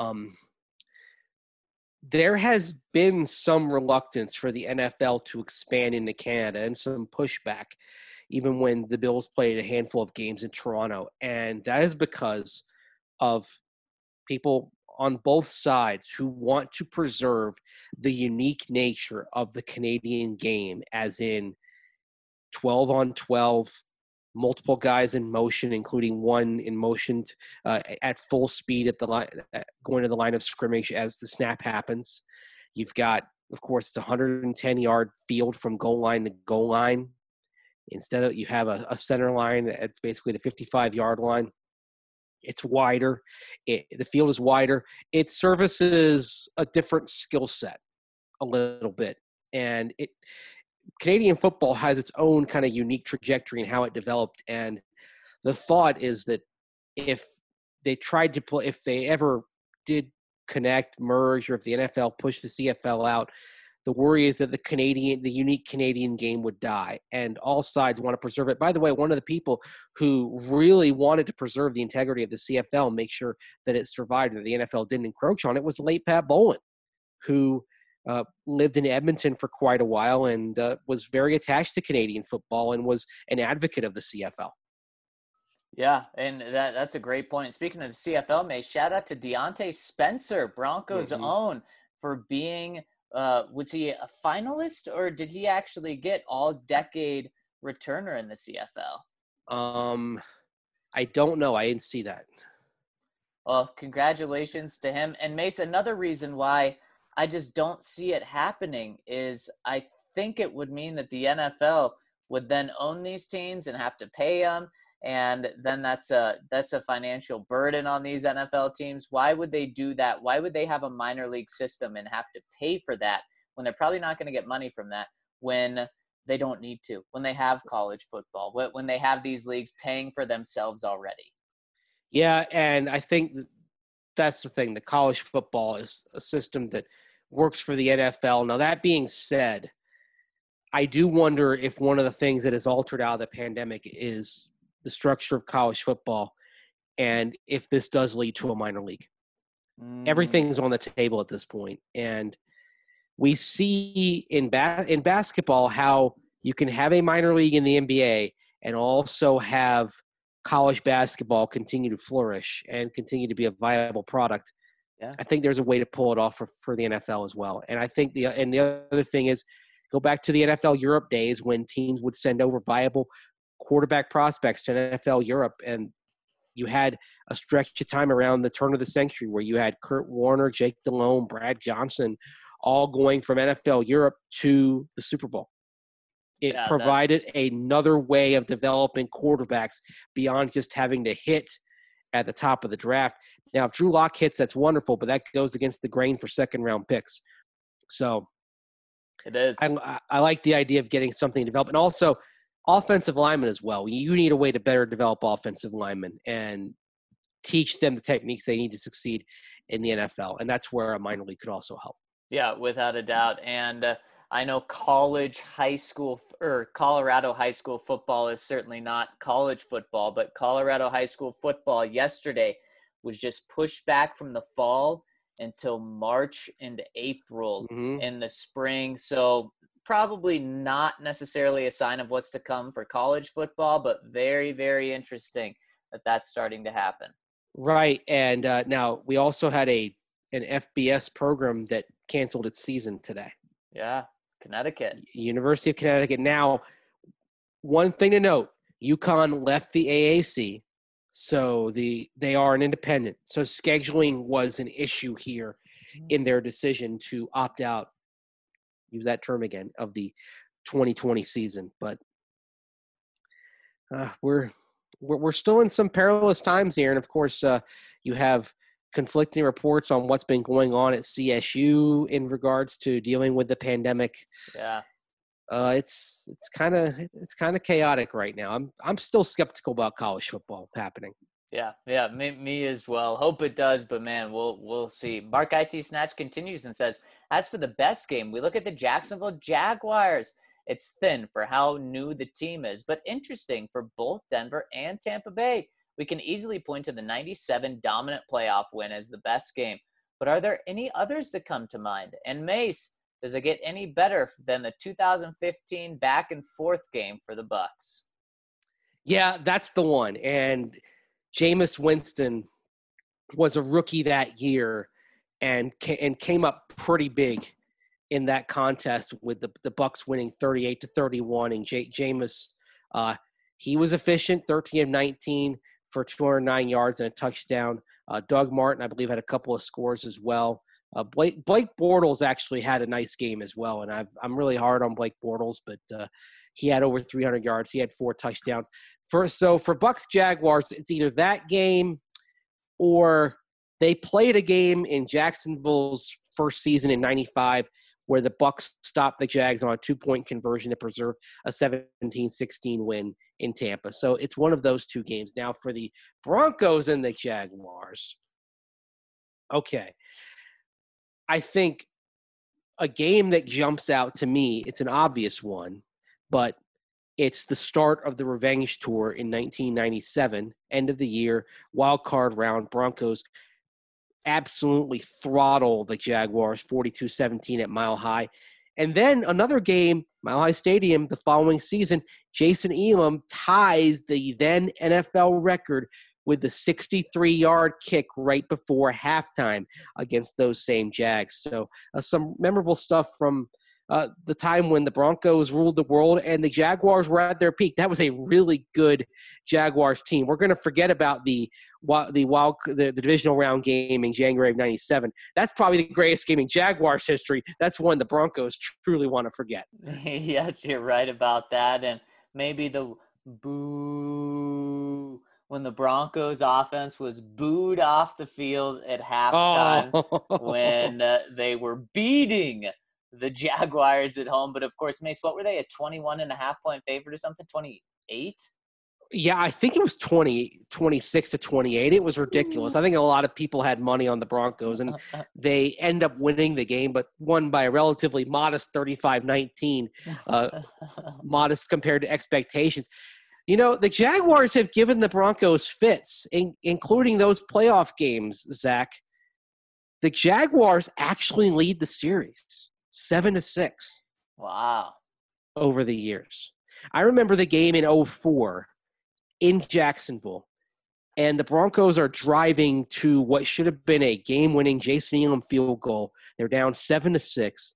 Speaker 3: There has been some reluctance for the NFL to expand into Canada and some pushback, even when the Bills played a handful of games in Toronto. And that is because of people on both sides who want to preserve the unique nature of the Canadian game, as in 12 on 12, multiple guys in motion, including one in motion at full speed at the line, going to the line of scrimmage as the snap happens. You've got, of course, it's a 110-yard field from goal line to goal line. Instead of, you have a center line that's basically the 55-yard line. It's wider. The field is wider. It services a different skill set a little bit. And Canadian football has its own kind of unique trajectory in how it developed. And the thought is that if they tried to play, if they ever did connect, merge, or if the NFL pushed the CFL out, the worry is that the unique Canadian game would die, and all sides want to preserve it. By the way, one of the people who really wanted to preserve the integrity of the CFL and make sure that it survived and that the NFL didn't encroach on it was the late Pat Bowlen, who lived in Edmonton for quite a while and was very attached to Canadian football and was an advocate of the CFL.
Speaker 1: Yeah, and that's a great point. Speaking of the CFL, May, shout out to Deontay Spencer, Broncos' own, for being was he a finalist, or did he actually get all-decade returner in the CFL?
Speaker 3: I don't know. I didn't see that.
Speaker 1: Well, congratulations to him. And Mace, another reason why I just don't see it happening is I think it would mean that the NFL would then own these teams and have to pay them. And then that's a financial burden on these NFL teams. Why would they do that? Why would they have a minor league system and have to pay for that when they're probably not going to get money from that, when they don't need to, when they have college football, when they have these leagues paying for themselves already?
Speaker 3: Yeah, and I think that's the thing. The college football is a system that works for the NFL. Now, that being said, I do wonder if one of the things that has altered out of the pandemic is the structure of college football, and if this does lead to a minor league. Everything's on the table at this point, and we see in basketball how you can have a minor league in the NBA and also have college basketball continue to flourish and continue to be a viable product.
Speaker 1: Yeah.
Speaker 3: I think there's a way to pull it off for the NFL as well. And I think the other thing is, go back to the NFL Europe days when teams would send over viable quarterback prospects to NFL Europe, and you had a stretch of time around the turn of the century where you had Kurt Warner, Jake Delhomme, Brad Johnson, all going from NFL Europe to the Super Bowl. It provided another way of developing quarterbacks beyond just having to hit at the top of the draft. Now, if Drew Lock hits, that's wonderful, but that goes against the grain for second-round picks. So
Speaker 1: it is.
Speaker 3: I like the idea of getting something developed. And also, offensive linemen as well. You need a way to better develop offensive linemen and teach them the techniques they need to succeed in the NFL. And that's where a minor league could also help.
Speaker 1: Yeah, without a doubt. And I know Colorado high school football is certainly not college football, but Colorado high school football yesterday was just pushed back from the fall until March and April in the spring. So probably not necessarily a sign of what's to come for college football, but very, very interesting that that's starting to happen.
Speaker 3: Right. And now we also had an FBS program that canceled its season today.
Speaker 1: Yeah, Connecticut.
Speaker 3: University of Connecticut. Now, one thing to note, UConn left the AAC, so they are an independent. So scheduling was an issue here in their decision to opt out, use that term again, of the 2020 season. But we're still in some perilous times here. And, of course, you have conflicting reports on what's been going on at CSU in regards to dealing with the pandemic.
Speaker 1: Yeah.
Speaker 3: It's kind of chaotic right now. I'm still skeptical about college football happening.
Speaker 1: Yeah, me as well. Hope it does, but man, we'll see. Mark IT Snatch continues and says, as for the best game, we look at the Jacksonville Jaguars. It's thin for how new the team is, but interesting for both Denver and Tampa Bay. We can easily point to the 97 dominant playoff win as the best game, but are there any others that come to mind? And Mace, does it get any better than the 2015 back and forth game for the Bucs?
Speaker 3: Yeah, that's the one. And Jameis Winston was a rookie that year and came up pretty big in that contest with the Bucs winning 38-31. And Jameis, he was efficient, 13 of 19 for 209 yards and a touchdown. Doug Martin, I believe, had a couple of scores as well. Blake Bortles actually had a nice game as well, and I'm really hard on Blake Bortles, but he had over 300 yards. He had 4 touchdowns. For Bucs Jaguars, it's either that game or they played a game in Jacksonville's first season in '95 where the Bucs stopped the Jags on a 2-point conversion to preserve a 17-16 win in Tampa. So it's one of those two games. Now for the Broncos and the Jaguars. Okay. I think a game that jumps out to me, it's an obvious one, but it's the start of the revenge tour in 1997, end of the year, wild card round. Broncos absolutely throttle the Jaguars 42-17 at Mile High. And then another game, Mile High Stadium, the following season, Jason Elam ties the then NFL record with the 63-yard kick right before halftime against those same Jags. So some memorable stuff from the time when the Broncos ruled the world and the Jaguars were at their peak. That was a really good Jaguars team. We're going to forget about the divisional round game in January of '97. That's probably the greatest game in Jaguars history. That's one the Broncos truly want to forget.
Speaker 1: Yes, you're right about that. And maybe the Boo. When the Broncos offense was booed off the field at halftime
Speaker 3: Oh,
Speaker 1: when they were beating the Jaguars at home. But of course, Mace, what were they, a 21.5 point favorite or something? 28?
Speaker 3: yeah, I think it was 26 to 28. It was ridiculous. I think a lot of people had money on the Broncos, and they end up winning the game, but won by a relatively modest 35-19, modest compared to expectations. You know, the Jaguars have given the Broncos fits, including those playoff games, Zach. The Jaguars actually lead the series 7-6
Speaker 1: Wow.
Speaker 3: over the years. I remember the game in 04 in Jacksonville, and the Broncos are driving to what should have been a game-winning Jason Elam field goal. They're down 7-6,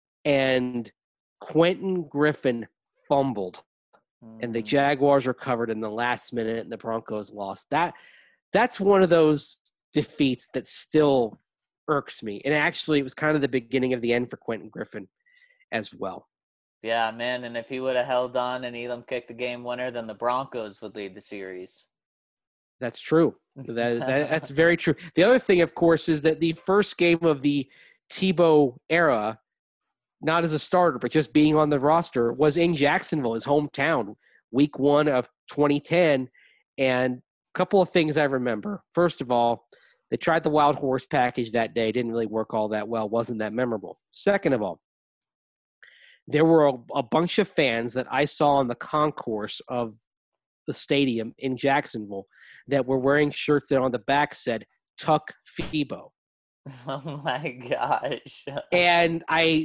Speaker 3: and Quentin Griffin fumbled, and the Jaguars recovered in the last minute, and the Broncos lost. That's one of those defeats that still irks me. And actually, it was kind of the beginning of the end for Quentin Griffin as well.
Speaker 1: Yeah, man. And if he would have held on and Elam kicked the game winner, then the Broncos would lead the series.
Speaker 3: That's true. That's very true. The other thing, of course, is that the first game of the Tebow era, not as a starter, but just being on the roster, was in Jacksonville, his hometown, week 1 of 2010. And a couple of things I remember. First of all, they tried the wild horse package that day. Didn't really work all that well. Wasn't that memorable. Second of all, there were a bunch of fans that I saw on the concourse of the stadium in Jacksonville that were wearing shirts that on the back said, Tuck Febo.
Speaker 1: Oh, my gosh.
Speaker 3: And I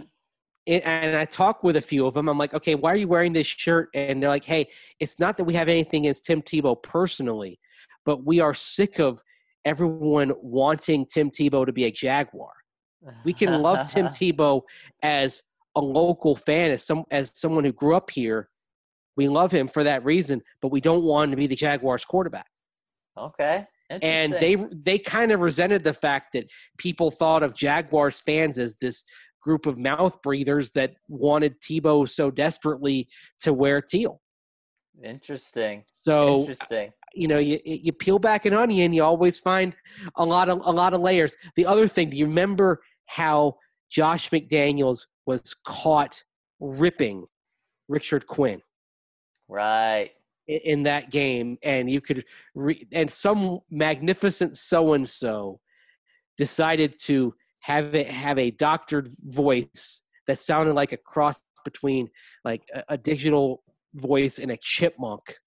Speaker 3: talked with a few of them. I'm like, okay, why are you wearing this shirt? And they're like, hey, it's not that we have anything against Tim Tebow personally, but we are sick of everyone wanting Tim Tebow to be a Jaguar. We can love Tim Tebow as a local fan, as someone who grew up here. We love him for that reason, but we don't want him to be the Jaguars quarterback.
Speaker 1: Okay.
Speaker 3: And they kind of resented the fact that people thought of Jaguars fans as this group of mouth breathers that wanted Tebow so desperately to wear teal.
Speaker 1: Interesting.
Speaker 3: So,
Speaker 1: Interesting.
Speaker 3: You know, you peel back an onion, you always find a lot of layers. The other thing, do you remember how Josh McDaniels was caught ripping Richard Quinn?
Speaker 1: Right.
Speaker 3: In that game, and you could and some magnificent so-and-so decided to have a doctored voice that sounded like a cross between like a digital voice and a chipmunk,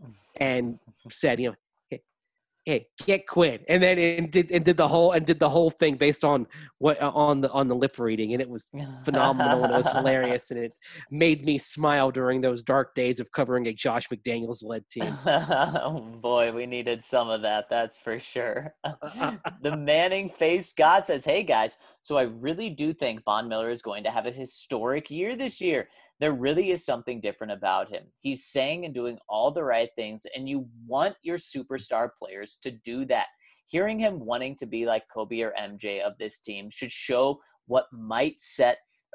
Speaker 3: and said, you know, hey, get Quinn, and then did the whole thing based on what on the lip reading, and it was phenomenal and it was hilarious, and it made me smile during those dark days of covering a Josh McDaniels led team.
Speaker 1: Oh boy, we needed some of that. That's for sure. The Manning face God says, "Hey guys, so I really do think Von Miller is going to have a historic year this year. There really is something different about him. He's saying and doing all the right things, and you want your superstar players to do that. Hearing him wanting to be like Kobe or MJ of this team should show what mindset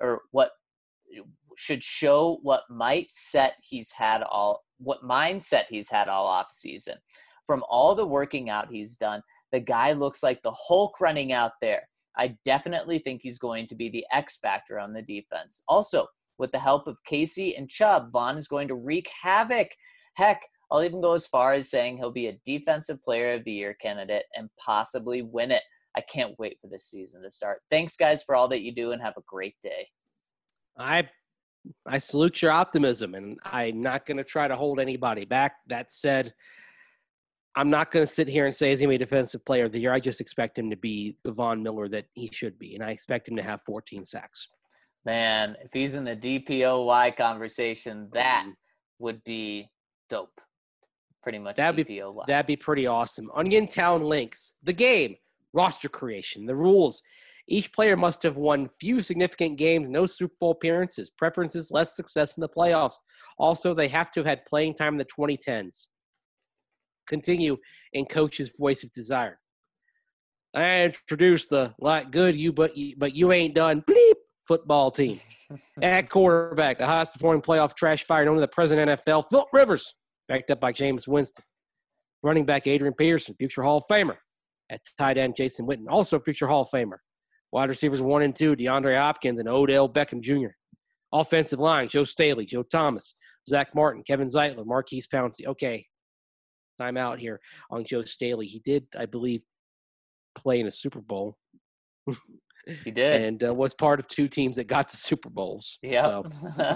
Speaker 1: he's had all off season. From all the working out he's done, the guy looks like the Hulk running out there. I definitely think he's going to be the X factor on the defense. Also, with the help of Casey and Chubb, Von is going to wreak havoc. Heck, I'll even go as far as saying he'll be a defensive player of the year candidate and possibly win it. I can't wait for this season to start. Thanks, guys, for all that you do, and have a great day."
Speaker 3: I salute your optimism, and I'm not going to try to hold anybody back. That said, I'm not going to sit here and say he's going to be a defensive player of the year. I just expect him to be the Von Miller that he should be, and I expect him to have 14 sacks.
Speaker 1: Man, if he's in the DPOY conversation, that would be dope. Pretty much DPOY.
Speaker 3: That'd be pretty awesome. Onion Town links. The game. Roster creation. The rules. Each player must have won few significant games, no Super Bowl appearances, preferences, less success in the playoffs. Also, they have to have had playing time in the 2010s. Continue in coach's voice of desire. I introduced the like good you but you ain't done bleep football team. At quarterback, the highest performing playoff trash fire known to the present NFL, Philip Rivers. backed up by James Winston. Running back Adrian Peterson, future Hall of Famer. At tight end, Jason Witten, also future Hall of Famer. Wide receivers 1 and 2, DeAndre Hopkins and Odell Beckham Jr. Offensive line, Joe Staley, Joe Thomas, Zach Martin, Kevin Zeitler, Marquise Pouncey. Okay, time out here on Joe Staley. He did, I believe, play in a Super Bowl.
Speaker 1: He did.
Speaker 3: And was part of 2 teams that got to Super Bowls.
Speaker 1: Yeah.
Speaker 3: So.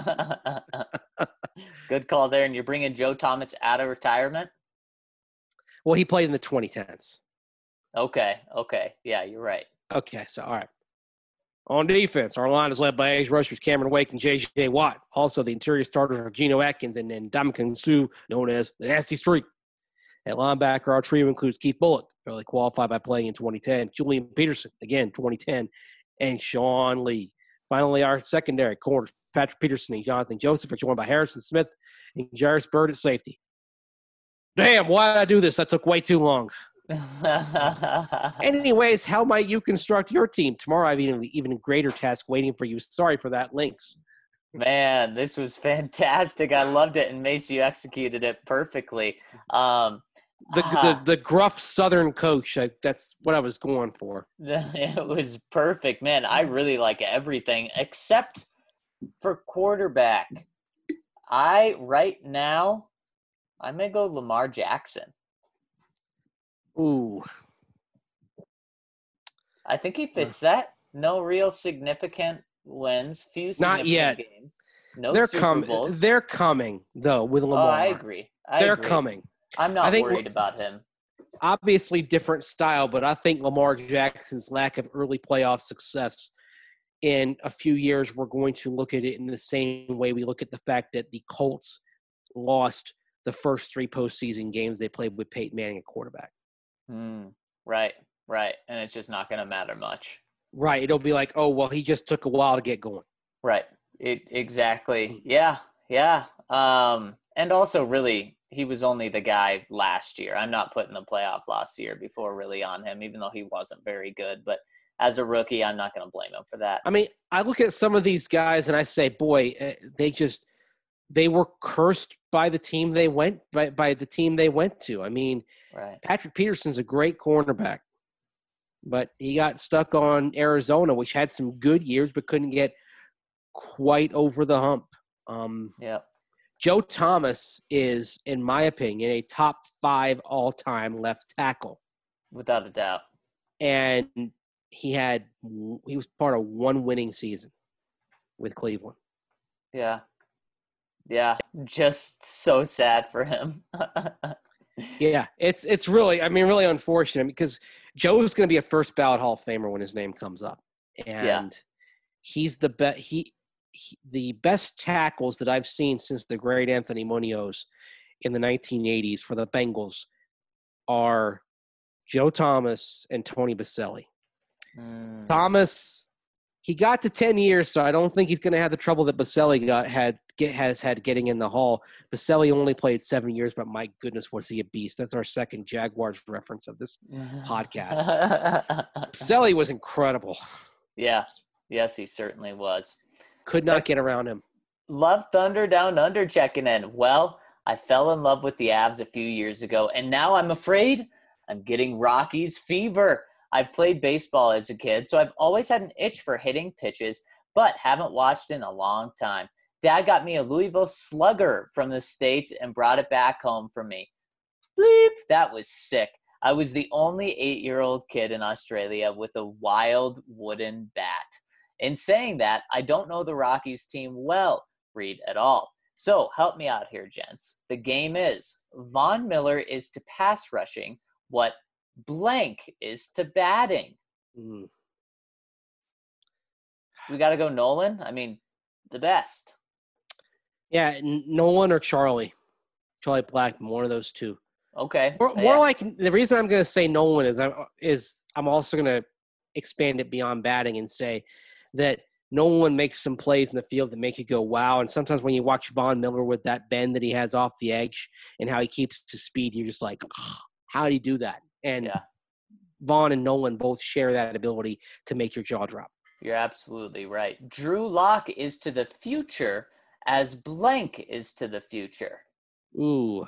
Speaker 1: Good call there. And you're bringing Joe Thomas out of retirement?
Speaker 3: Well, he played in the 2010s.
Speaker 1: Okay. Yeah, you're right.
Speaker 3: Okay, so all right. On defense, our line is led by edge rushers Cameron Wake and J.J. Watt. Also, the interior starters are Geno Atkins and then Ndamukong Suh, known as the Nasty Streak. At linebacker, our trio includes Keith Bullock, fairly qualified by playing in 2010, Julian Peterson, again, 2010, and Sean Lee. Finally, our secondary corners, Patrick Peterson and Jonathan Joseph, are joined by Harrison Smith and Jairus Byrd at safety. Damn, why did I do this? That took way too long. Anyways, how might you construct your team? Tomorrow I have even a greater task waiting for you. Sorry for that, Lynx.
Speaker 1: Man, this was fantastic. I loved it, and Mace, you executed it perfectly.
Speaker 3: The gruff Southern coach, that's what I was going for.
Speaker 1: It was perfect. Man, I really like everything except for quarterback. Right now, I'm going to go Lamar Jackson.
Speaker 3: Ooh.
Speaker 1: I think he fits that. No real significant wins. Few significant
Speaker 3: Not yet.
Speaker 1: games. No
Speaker 3: They're
Speaker 1: Super Bowls.
Speaker 3: They're coming, though, with Lamar.
Speaker 1: Oh, I agree.
Speaker 3: They're coming.
Speaker 1: I'm not worried about him.
Speaker 3: Obviously different style, but I think Lamar Jackson's lack of early playoff success in a few years, we're going to look at it in the same way we look at the fact that the Colts lost the first 3 postseason games they played with Peyton Manning at quarterback.
Speaker 1: Right. And it's just not going to matter much.
Speaker 3: Right. It'll be like, oh, well, he just took a while to get going.
Speaker 1: Right. Exactly. Yeah. And also, really, he was only the guy last year. I'm not putting the playoff last year before really on him, even though he wasn't very good. But as a rookie, I'm not going to blame him for that.
Speaker 3: I mean, I look at some of these guys and I say, boy, they were cursed by the team they went by the team they went to. I mean,
Speaker 1: right.
Speaker 3: Patrick Peterson's a great cornerback, but he got stuck on Arizona, which had some good years but couldn't get quite over the hump.
Speaker 1: Yeah.
Speaker 3: Joe Thomas is, in my opinion, a top 5 all-time left tackle.
Speaker 1: Without a doubt.
Speaker 3: And he was part of 1 winning season with Cleveland.
Speaker 1: Yeah. Just so sad for him.
Speaker 3: Yeah, it's really, really unfortunate because Joe's going to be a first ballot Hall of Famer when his name comes up. And he's the best. The best tackles that I've seen since the great Anthony Munoz in the 1980s for the Bengals are Joe Thomas and Tony Baselli. Thomas, he got to 10 years, so I don't think he's going to have the trouble that Baselli has had getting in the Hall. Baselli only played 7 years, but my goodness, was he a beast. That's our second Jaguars reference of this podcast. Baselli was incredible.
Speaker 1: Yeah. Yes, he certainly was.
Speaker 3: Could not get around him.
Speaker 1: Love Thunder Down Under checking in. Well, I fell in love with the Avs a few years ago, and now I'm afraid I'm getting Rockies fever. I've played baseball as a kid, so I've always had an itch for hitting pitches, but haven't watched in a long time. Dad got me a Louisville Slugger from the States and brought it back home for me. Bleep, that was sick. I was the only 8-year-old kid in Australia with a wild wooden bat. In saying that, I don't know the Rockies team well, Reed, at all. So help me out here, gents. The game is Von Miller is to pass rushing what blank is to batting. We got to go Nolan? I mean, the best.
Speaker 3: Yeah, Nolan or Charlie. Charlie Blackmon, one of those two.
Speaker 1: Okay.
Speaker 3: More like the reason I'm going to say Nolan is I'm also going to expand it beyond batting and say that Nolan makes some plays in the field that make you go, wow. And sometimes when you watch Von Miller with that bend that he has off the edge and how he keeps his speed, you're just like, oh, how did he do that? And Vaughn and Nolan both share that ability to make your jaw drop.
Speaker 1: You're absolutely right. Drew Lock is to the future as blank is to the future.
Speaker 3: Ooh.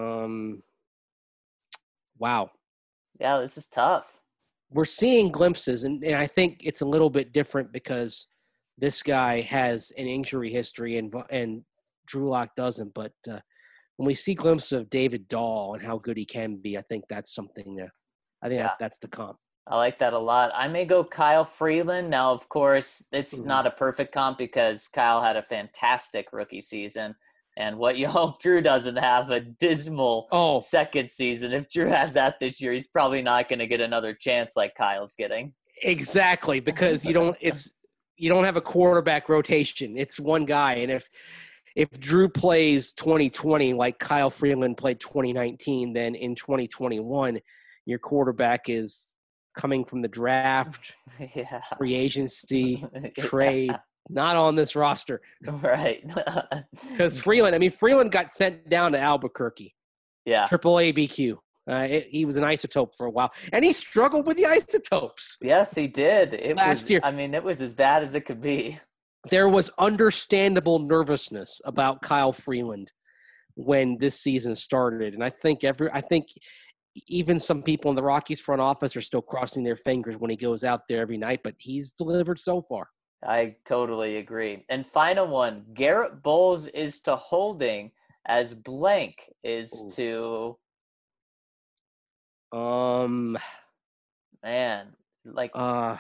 Speaker 3: Wow.
Speaker 1: Yeah, this is tough.
Speaker 3: We're seeing glimpses, and I think it's a little bit different because this guy has an injury history and Drew Lock doesn't. But when we see glimpses of David Dahl and how good he can be, I think that's something that I think
Speaker 1: Yeah.
Speaker 3: that's the comp.
Speaker 1: I like that a lot. I may go Kyle Freeland. Now, of course, it's
Speaker 3: Mhm.
Speaker 1: not a perfect comp because Kyle had a fantastic rookie season. And what you hope Drew doesn't have a dismal
Speaker 3: Oh,
Speaker 1: second season. If Drew has that this year, he's probably not going to get another chance like Kyle's getting.
Speaker 3: exactly, because you don't have a quarterback rotation. It's one guy, and if Drew plays 2020 like Kyle Freeland played 2019, then in 2021 your quarterback is coming from the draft,
Speaker 1: Yeah.
Speaker 3: free agency, trade,
Speaker 1: Yeah.
Speaker 3: not on this roster.
Speaker 1: Right.
Speaker 3: Because Freeland got sent down to Albuquerque,
Speaker 1: Yeah.
Speaker 3: Triple ABQ. He was an isotope for a while, and he struggled with the isotopes.
Speaker 1: Yes, he did.
Speaker 3: Last year.
Speaker 1: I mean, it was as bad as it could be.
Speaker 3: There was understandable nervousness about Kyle Freeland when this season started, and I think even some people in the Rockies front office are still crossing their fingers when he goes out there every night, but he's delivered so far.
Speaker 1: I totally agree. And final one, Garrett Bowles is to Holding as blank is
Speaker 3: Ooh.
Speaker 1: to man, like
Speaker 3: uh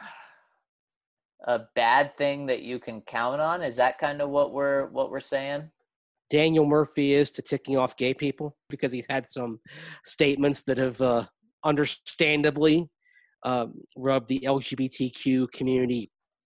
Speaker 1: a bad thing that you can count on. Is that kind of what we're saying?
Speaker 3: Daniel Murphy is to ticking off gay people because he's had some statements that have understandably rubbed the LGBTQ community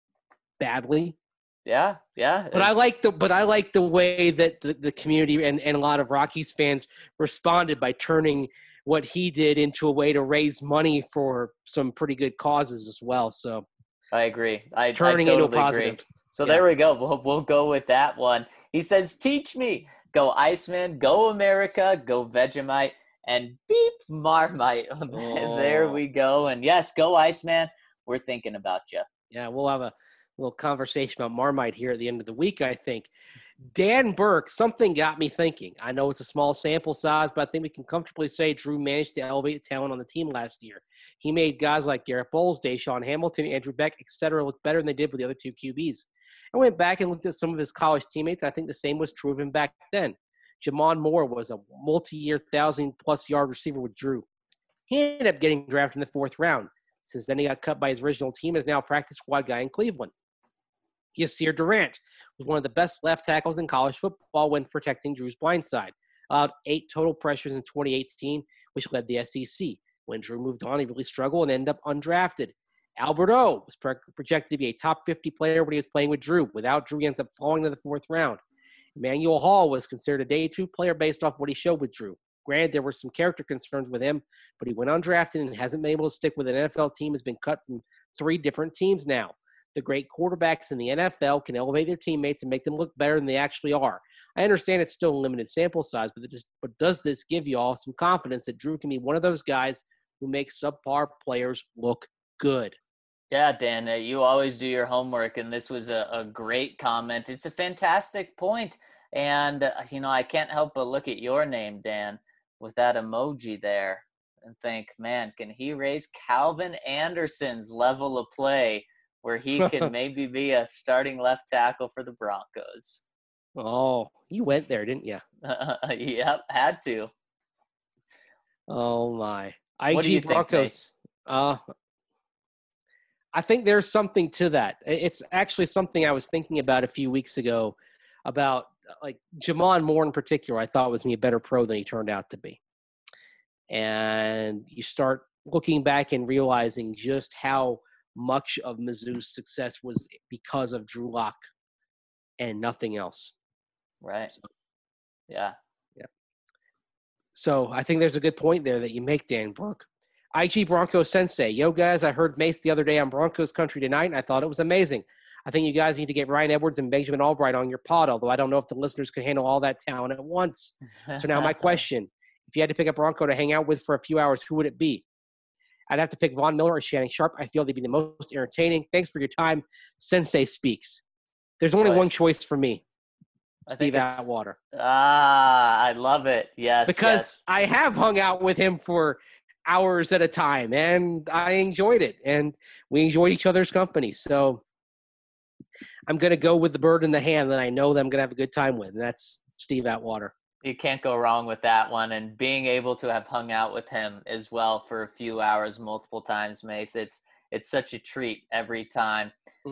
Speaker 3: badly.
Speaker 1: Yeah.
Speaker 3: But I like the way that the community and a lot of Rockies fans responded by turning what he did into a way to raise money for some pretty good causes as well. So
Speaker 1: I agree. I
Speaker 3: turning
Speaker 1: totally
Speaker 3: into a positive.
Speaker 1: agree. So
Speaker 3: Yeah.
Speaker 1: there we go. We'll go with that one. He says, "Teach me." Go Iceman. Go America. Go Vegemite. And beep Marmite. There we go. And yes, go Iceman. We're thinking about you.
Speaker 3: Yeah, we'll have a little conversation about Marmite here at the end of the week, I think. Dan Burke, something got me thinking. I know it's a small sample size, but I think we can comfortably say Drew managed to elevate the talent on the team last year. He made guys like Garrett Bowles, Deshaun Hamilton, Andrew Beck, etc. look better than they did with the other two QBs. I went back and looked at some of his college teammates. I think the same was true of him back then. Jamon Moore was a multi-year 1,000-plus yard receiver with Drew. He ended up getting drafted in the 4th round. Since then, he got cut by his original team, is now a practice squad guy in Cleveland. Yasir Durant was one of the best left tackles in college football when protecting Drew's blind side. Allowed 8 total pressures in 2018, which led the SEC. When Drew moved on, he really struggled and ended up undrafted. Albert O was projected to be a top 50 player when he was playing with Drew. Without Drew, he ends up falling to the 4th round. Emmanuel Hall was considered a day 2 player based off what he showed with Drew. Granted, there were some character concerns with him, but he went undrafted and hasn't been able to stick with an NFL team, has been cut from 3 different teams now. The great quarterbacks in the NFL can elevate their teammates and make them look better than they actually are. I understand it's still a limited sample size, but does this give you all some confidence that Drew can be one of those guys who makes subpar players look good?
Speaker 1: Yeah, Dan, you always do your homework, and this was a great comment. It's a fantastic point. And, I can't help but look at your name, Dan, with that emoji there and think, man, can he raise Calvin Anderson's level of play where he can maybe be a starting left tackle for the Broncos?
Speaker 3: Oh, you went there, didn't you?
Speaker 1: Yep, had to.
Speaker 3: Oh, my.
Speaker 1: What do you
Speaker 3: Broncos.
Speaker 1: think,
Speaker 3: I think there's something to that. It's actually something I was thinking about a few weeks ago about like Jamon Moore in particular. I thought was me a better pro than he turned out to be. And you start looking back and realizing just how much of Mizzou's success was because of Drew Lock and nothing else.
Speaker 1: Right. So, yeah.
Speaker 3: So I think there's a good point there that you make, Dan Burke. IG Broncos Sensei. Yo, guys, I heard Mace the other day on Broncos Country tonight, and I thought it was amazing. I think you guys need to get Ryan Edwards and Benjamin Albright on your pod, although I don't know if the listeners can handle all that talent at once. So now my question, if you had to pick a Bronco to hang out with for a few hours, who would it be? I'd have to pick Von Miller or Shannon Sharp. I feel they'd be the most entertaining. Thanks for your time. Sensei speaks. There's only one choice for me. Steve Atwater.
Speaker 1: I love it. Yes,
Speaker 3: because I have hung out with him for hours at a time, and I enjoyed it, and we enjoyed each other's company. So I'm going to go with the bird in the hand that I know that I'm going to have a good time with, and that's Steve Atwater.
Speaker 1: You can't go wrong with that one. And being able to have hung out with him as well for a few hours multiple times, Mace, it's such a treat every time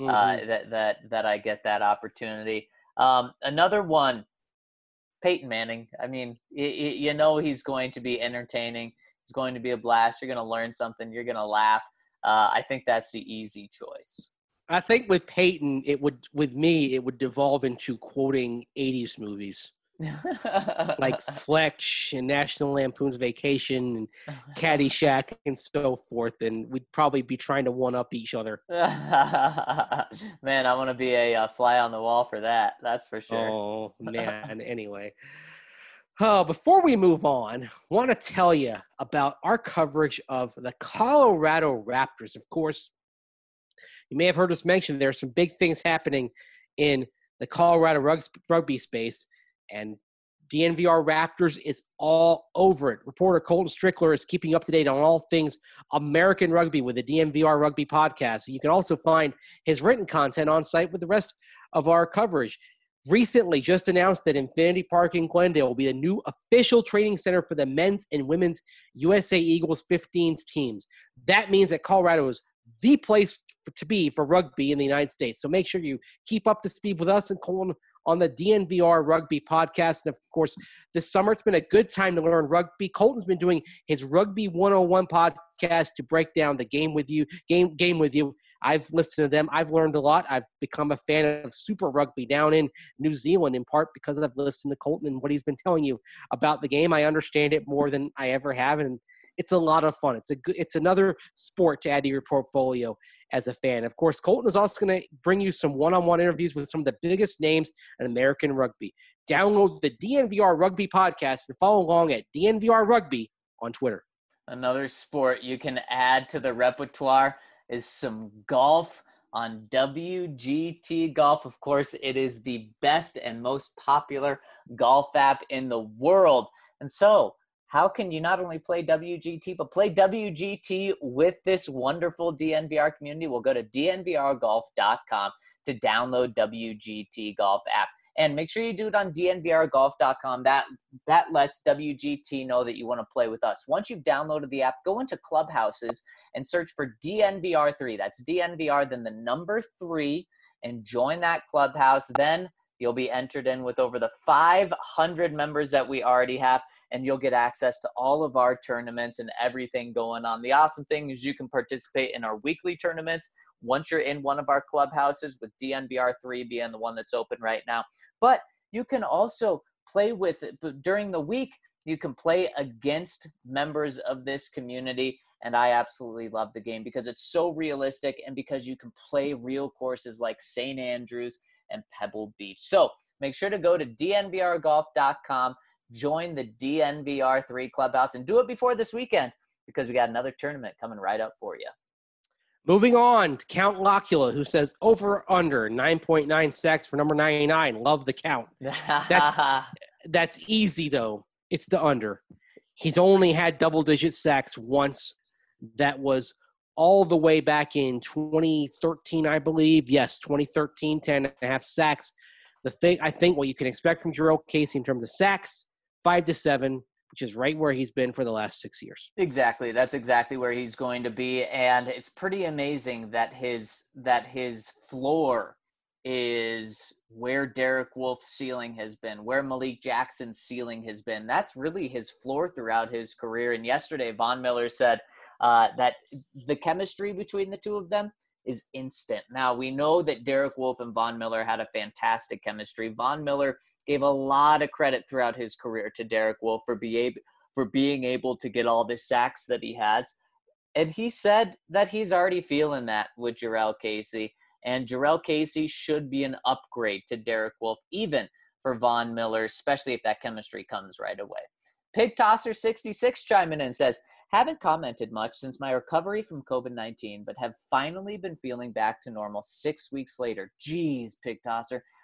Speaker 1: that I get that opportunity. Another one, Peyton Manning. I mean, you know he's going to be entertaining. It's going to be a blast. You're going to learn something. You're going to laugh. I think that's the easy choice.
Speaker 3: I think with Peyton, it would devolve into quoting 80s movies. Like Fletch and National Lampoon's Vacation and Caddyshack and so forth, and we'd probably be trying to one-up each other.
Speaker 1: Man, I want to be a fly on the wall for that. That's for sure.
Speaker 3: Oh, man. Anyway. Before we move on, I want to tell you about our coverage of the Colorado Raptors. Of course, you may have heard us mention there are some big things happening in the Colorado rugby space, and DNVR Raptors is all over it. Reporter Colton Strickler is keeping up to date on all things American rugby with the DNVR Rugby podcast. You can also find his written content on site with the rest of our coverage. Recently just announced that Infinity Park in Glendale will be the new official training center for the men's and women's USA Eagles 15s teams. That means that Colorado is the place to be for rugby in the United States. So make sure you keep up to speed with us and Colton on the DNVR Rugby podcast. And, of course, this summer it's been a good time to learn rugby. Colton's been doing his Rugby 101 podcast to break down the game with you. I've listened to them. I've learned a lot. I've become a fan of Super Rugby down in New Zealand, in part because I've listened to Colton and what he's been telling you about the game. I understand it more than I ever have, and it's a lot of fun. It's another sport to add to your portfolio as a fan. Of course, Colton is also going to bring you some one-on-one interviews with some of the biggest names in American rugby. Download the DNVR Rugby podcast and follow along at DNVR Rugby on Twitter.
Speaker 1: Another sport you can add to the repertoire is some golf on WGT Golf. Of course, it is the best and most popular golf app in the world. And so, how can you not only play WGT, but play WGT with this wonderful DNVR community? We'll go to dnvrgolf.com to download WGT Golf app. And make sure you do it on dnvrgolf.com. That lets WGT know that you want to play with us. Once you've downloaded the app, go into Clubhouses and search for DNVR3. That's DNVR, then the number 3, and join that clubhouse. Then you'll be entered in with over the 500 members that we already have, and you'll get access to all of our tournaments and everything going on. The awesome thing is you can participate in our weekly tournaments once you're in one of our clubhouses, with DNVR3 being the one that's open right now. But you can also play with it during the week. You can play against members of this community, and I absolutely love the game because it's so realistic and because you can play real courses like St. Andrews and Pebble Beach. So make sure to go to dnvrgolf.com, join the DNVR3 Clubhouse, and do it before this weekend because we got another tournament coming right up for you.
Speaker 3: Moving on to Count Locula, who says over under 9.9 sacks for number 99. Love the count. That's easy, though. It's the under. He's only had double-digit sacks once. That was all the way back in 2013, I believe. Yes, 2013, 10.5 sacks. I think what you can expect from Jurrell Casey in terms of sacks, 5 to 7, which is right where he's been for the last 6 years.
Speaker 1: Exactly. That's exactly where he's going to be. And it's pretty amazing that his floor is where Derek Wolfe's ceiling has been, where Malik Jackson's ceiling has been. That's really his floor throughout his career. And yesterday, Von Miller said that the chemistry between the two of them is instant. Now, we know that Derek Wolfe and Von Miller had a fantastic chemistry. Von Miller gave a lot of credit throughout his career to Derek Wolfe for being able to get all the sacks that he has. And he said that he's already feeling that with Jurrell Casey. And Jurrell Casey should be an upgrade to Derek Wolfe, even for Von Miller, especially if that chemistry comes right away. Pig Tosser 66 chiming in and says, haven't commented much since my recovery from COVID-19, but have finally been feeling back to normal 6 weeks later. Jeez, Pig Tosser.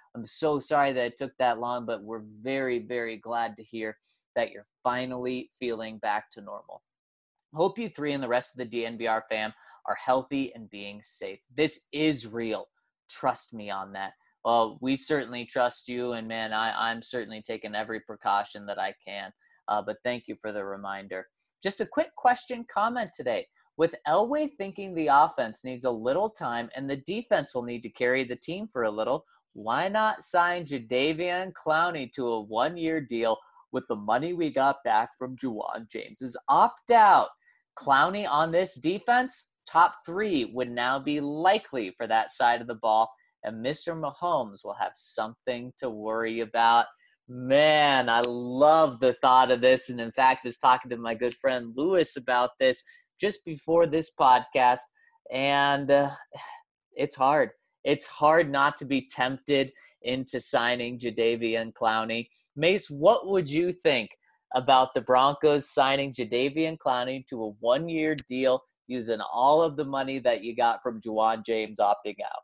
Speaker 1: I'm so sorry that it took that long, but we're very, very glad to hear that you're finally feeling back to normal. Hope you three and the rest of the DNVR fam are healthy and being safe. This is real. Trust me on that. Well, we certainly trust you, and man, I'm certainly taking every precaution that I can. But thank you for the reminder. Just a quick question comment today. With Elway thinking the offense needs a little time and the defense will need to carry the team for a little, why not sign Jadeveon Clowney to a one-year deal with the money we got back from Ja'Wuan James's opt-out? Clowney on this defense, top 3 would now be likely for that side of the ball, and Mr. Mahomes will have something to worry about. Man, I love the thought of this, and in fact, was talking to my good friend Lewis about this just before this podcast, and it's hard. It's hard not to be tempted into signing Jadeveon Clowney. Mace, what would you think about the Broncos signing Jadeveon Clowney to a one-year deal using all of the money that you got from Ja'Wuan James opting out?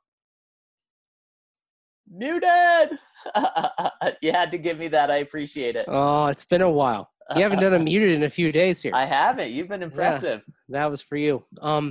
Speaker 1: Muted! You had to give me that. I appreciate it.
Speaker 3: Oh, it's been a while. You haven't done a muted in a few days here.
Speaker 1: I haven't. You've been impressive.
Speaker 3: Yeah, that was for you.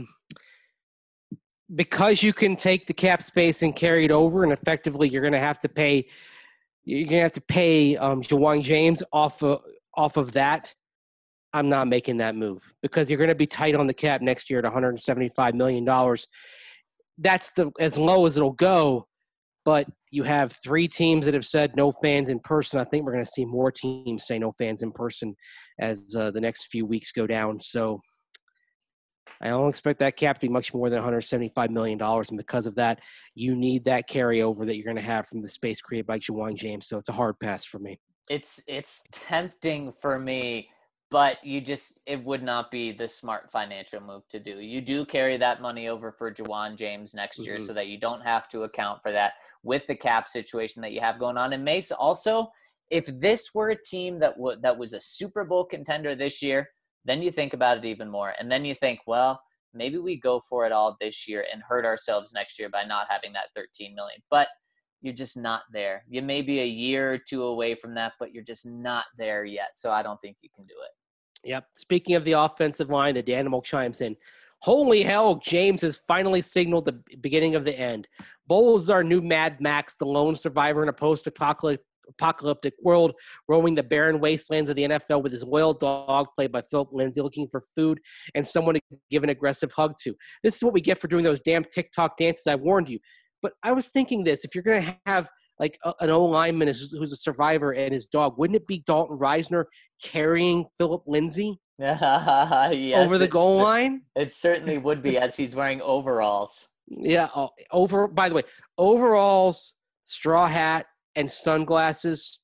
Speaker 3: Because you can take the cap space and carry it over, and effectively you're going to have to pay. You're going to have to pay Ja'Wuan James off of that. I'm not making that move because you're going to be tight on the cap next year at $175 million. That's as low as it'll go. But you have 3 teams that have said no fans in person. I think we're going to see more teams say no fans in person as the next few weeks go down. So I don't expect that cap to be much more than $175 million. And because of that, you need that carryover that you're going to have from the space created by Ja'Wuan James. So it's a hard pass for me.
Speaker 1: It's tempting for me, but it would not be the smart financial move to do. You do carry that money over for Ja'Wuan James next year so that you don't have to account for that with the cap situation that you have going on. And Mace, also, if this were a team that was a Super Bowl contender this year, then you think about it even more. And then you think, well, maybe we go for it all this year and hurt ourselves next year by not having that $13 million. But you're just not there. You may be a year or 2 away from that, but you're just not there yet. So I don't think you can do it.
Speaker 3: Yep. Speaking of the offensive line, the Danimal chimes in. Holy hell, James has finally signaled the beginning of the end. Bowles is our new Mad Max, the lone survivor in a post-apocalyptic world, roaming the barren wastelands of the NFL with his loyal dog, played by Philip Lindsay, looking for food and someone to give an aggressive hug to. This is what we get for doing those damn TikTok dances. I warned you. But I was thinking this. If you're going to have like an O-lineman who's a survivor and his dog, wouldn't it be Dalton Reisner carrying Philip Lindsay
Speaker 1: yes,
Speaker 3: over the goal line?
Speaker 1: It certainly would be, as he's wearing overalls.
Speaker 3: Yeah. By the way, overalls, straw hat, and sunglasses.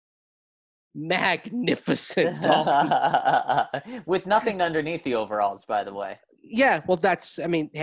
Speaker 3: Magnificent dog.
Speaker 1: With nothing underneath the overalls, by the way.
Speaker 3: Yeah. Well, that's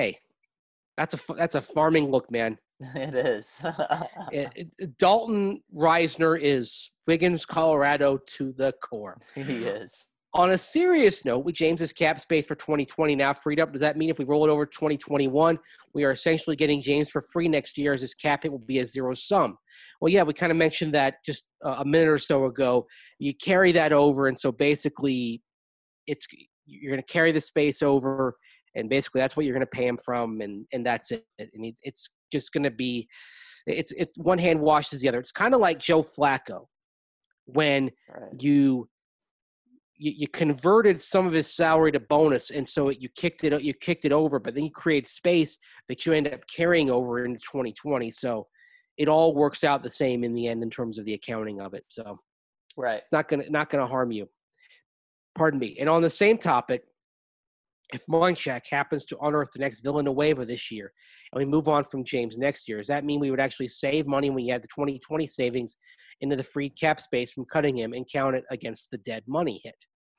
Speaker 3: a farming look, man.
Speaker 1: It is.
Speaker 3: Dalton Reisner is Wiggins, Colorado to the core.
Speaker 1: He is.
Speaker 3: On a serious note, with James's cap space for 2020 now freed up, does that mean if we roll it over to 2021, we are essentially getting James for free next year as his cap hit will be a zero sum? Well, yeah, we kind of mentioned that just a minute or so ago. You carry that over, and so basically you're going to carry the space over, and basically that's what you're going to pay him from, and that's it. And it's just going to be it's one hand washes the other. It's kind of like Joe Flacco when you converted some of his salary to bonus, and so you kicked it over, but then you create space that you end up carrying over into 2020. So it all works out the same in the end in terms of the accounting of it. So it's not gonna harm you. Pardon me. And on the same topic, if Munchak happens to unearth the next Villanueva this year, and we move on from James next year, does that mean we would actually save money when you add the 2020 savings into the free cap space from cutting him and count it against the dead money hit?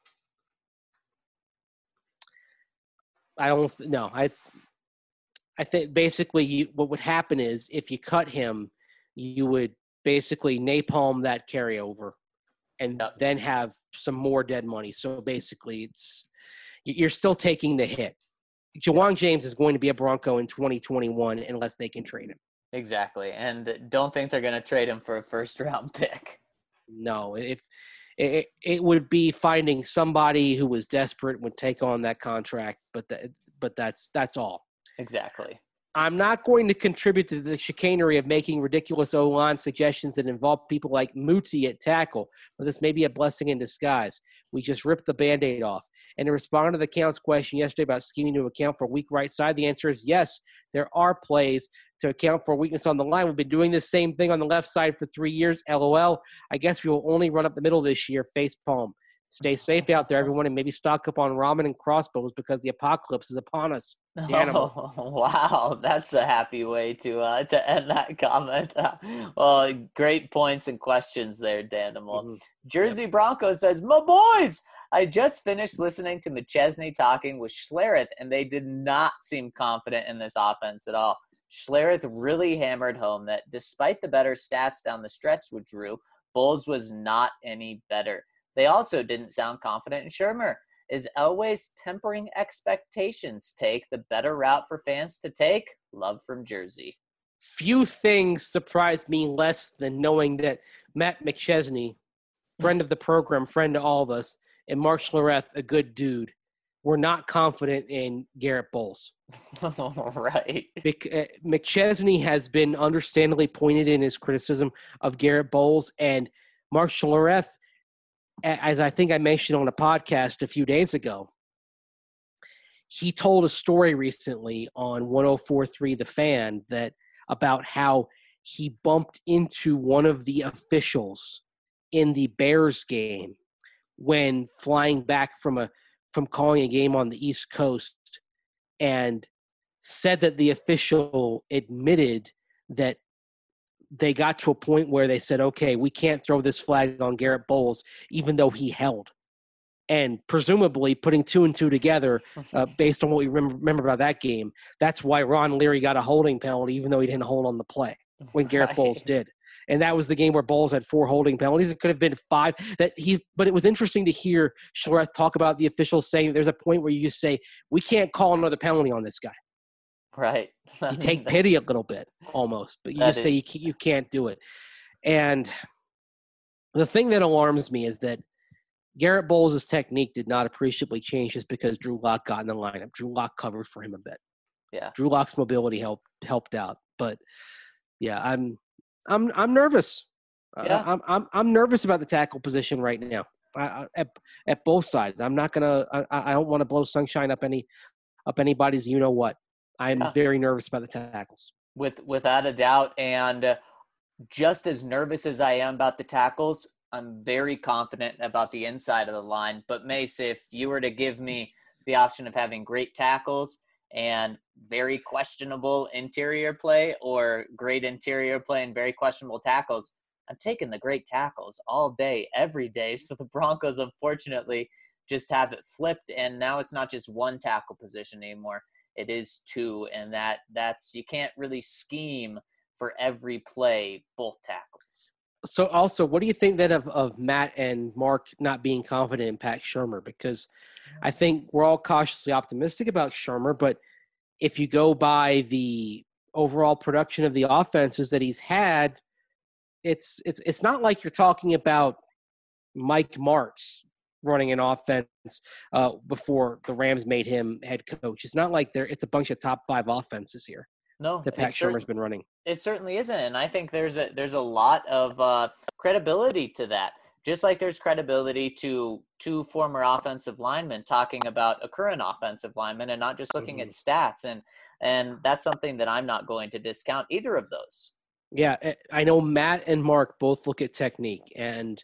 Speaker 3: I don't know. I think basically what would happen is if you cut him, you would basically napalm that carryover and then have some more dead money. So basically you're still taking the hit. Ja'Wuan James is going to be a Bronco in 2021 unless they can trade him.
Speaker 1: Exactly. And don't think they're going to trade him for a first-round pick.
Speaker 3: No, if it would be finding somebody who was desperate would take on that contract, but that's all.
Speaker 1: Exactly.
Speaker 3: I'm not going to contribute to the chicanery of making ridiculous O-line suggestions that involve people like Muti at tackle, but this may be a blessing in disguise. We just ripped the Band-Aid off. And to respond to the Count's question yesterday about scheming to account for a weak right side, the answer is yes, there are plays to account for weakness on the line. We've been doing this same thing on the left side for 3 years. LOL. I guess we will only run up the middle this year. Face palm. Stay safe out there, everyone, and maybe stock up on ramen and crossbows because the apocalypse is upon us.
Speaker 1: Oh, wow, that's a happy way to end that comment. Well, great points and questions there, Danimal.
Speaker 3: Mm-hmm.
Speaker 1: Jersey Broncos says, "My boys, I just finished listening to McChesney talking with Schlereth, and they did not seem confident in this offense at all. Schlereth really hammered home that despite the better stats down the stretch with Drew, Bowles was not any better. They also didn't sound confident in Shermer. Is Elway's tempering expectations take the better route for fans to take? Love from Jersey."
Speaker 3: Few things surprised me less than knowing that Matt McChesney, friend of the program, friend to all of us, and Mark Schlereth, a good dude, were not confident in Garrett Bowles.
Speaker 1: Right.
Speaker 3: McChesney has been understandably pointed in his criticism of Garrett Bowles, and Mark Schlereth, as I think I mentioned on a podcast a few days ago, he told a story recently on 104.3 The Fan that about how he bumped into one of the officials in the Bears game when flying back from calling a game on the East Coast, and said that the official admitted that they got to a point where they said, okay, we can't throw this flag on Garrett Bowles, even though he held. And presumably putting two and two together based on what we remember about that game, that's why Ron Leary got a holding penalty, even though he didn't hold on the play when Garrett Bowles did. And that was the game where Bowles had 4 holding penalties. It could have been 5. But it was interesting to hear Schlereth talk about the officials saying there's a point where you just say, we can't call another penalty on this guy.
Speaker 1: Right.
Speaker 3: You take pity a little bit almost, but you just say you can't do it. And the thing that alarms me is that Garrett Bowles' technique did not appreciably change just because Drew Lock got in the lineup. Drew Lock covered for him a bit.
Speaker 1: Yeah.
Speaker 3: Drew Lock's mobility helped out. But yeah, I'm nervous.
Speaker 1: Yeah.
Speaker 3: I'm nervous about the tackle position right now. At both sides. I'm not gonna. I don't want to blow sunshine up anybody's. You know what? I'm very nervous about the tackles.
Speaker 1: Without a doubt, and just as nervous as I am about the tackles, I'm very confident about the inside of the line. But Mace, if you were to give me the option of having great tackles and very questionable interior play, or great interior play and very questionable tackles, I'm taking the great tackles all day, every day. So the Broncos, unfortunately, just have it flipped, and now it's not just one tackle position anymore. It is 2, and that's you can't really scheme for every play both tackles.
Speaker 3: So also, what do you think then of Matt and Mark not being confident in Pat Shurmur? Because I think we're all cautiously optimistic about Shurmur, but if you go by the overall production of the offenses that he's had, it's not like you're talking about Mike Martz running an offense before the Rams made him head coach. It's not like it's a bunch of top 5 offenses here.
Speaker 1: No,
Speaker 3: that Pat Shurmur's been running.
Speaker 1: It certainly isn't, and I think there's a lot of credibility to that. Just like there's credibility to 2 former offensive linemen talking about a current offensive lineman and not just looking at stats, and that's something that I'm not going to discount either of those.
Speaker 3: Yeah, I know Matt and Mark both look at technique, and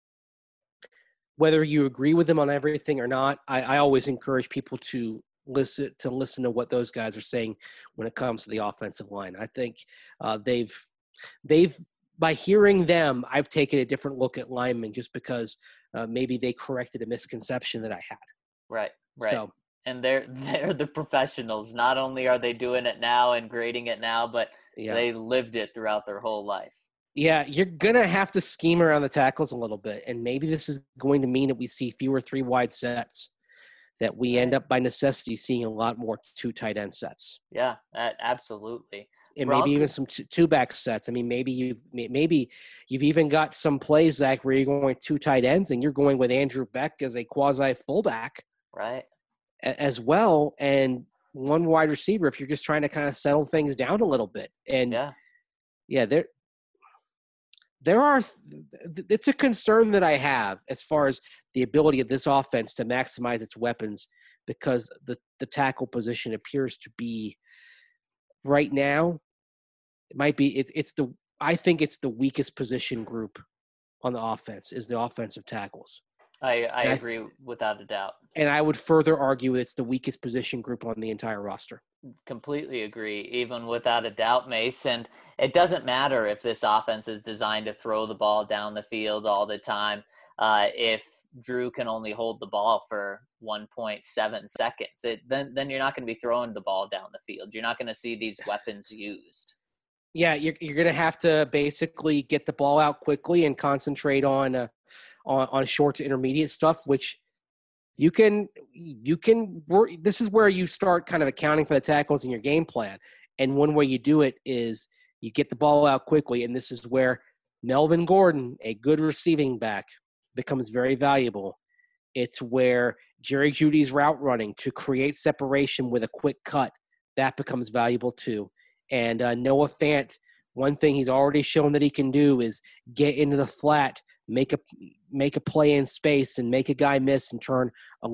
Speaker 3: whether you agree with them on everything or not, I always encourage people to listen to what those guys are saying when it comes to the offensive line. I think they've by hearing them, I've taken a different look at linemen just because maybe they corrected a misconception that I had.
Speaker 1: Right.
Speaker 3: So,
Speaker 1: and they're the professionals. Not only are they doing it now and grading it now, but they lived it throughout their whole life.
Speaker 3: Yeah, you're going to have to scheme around the tackles a little bit, and maybe this is going to mean that we see fewer 3-wide sets, that we end up by necessity seeing a lot more 2 tight end sets.
Speaker 1: Yeah, absolutely.
Speaker 3: and maybe even some two-back sets. I mean, maybe you've even got some plays, Zach, where you're going 2 tight ends and you're going with Andrew Beck as a quasi fullback,
Speaker 1: right,
Speaker 3: as well, and 1 wide receiver if you're just trying to kind of settle things down a little bit. And there are it's a concern that I have as far as the ability of this offense to maximize its weapons, because the tackle position appears to be right now, it might be I think it's the weakest position group on the offense is the offensive tackles.
Speaker 1: I agree without a doubt.
Speaker 3: And I would further argue it's the weakest position group on the entire roster.
Speaker 1: Completely agree, even without a doubt, Mace. And it doesn't matter if this offense is designed to throw the ball down the field all the time. If Drew can only hold the ball for 1.7 seconds, then you're not going to be throwing the ball down the field. You're not going to see these weapons used.
Speaker 3: Yeah, you're going to have to basically get the ball out quickly and concentrate on short to intermediate stuff, which you can work. This is where you start kind of accounting for the tackles in your game plan. And one way you do it is you get the ball out quickly. And this is where Melvin Gordon, a good receiving back, becomes very valuable. It's where Jerry Jeudy's route running to create separation with a quick cut, that becomes valuable too. And Noah Fant, one thing he's already shown that he can do is get into the flat, make a play in space, and make a guy miss and turn a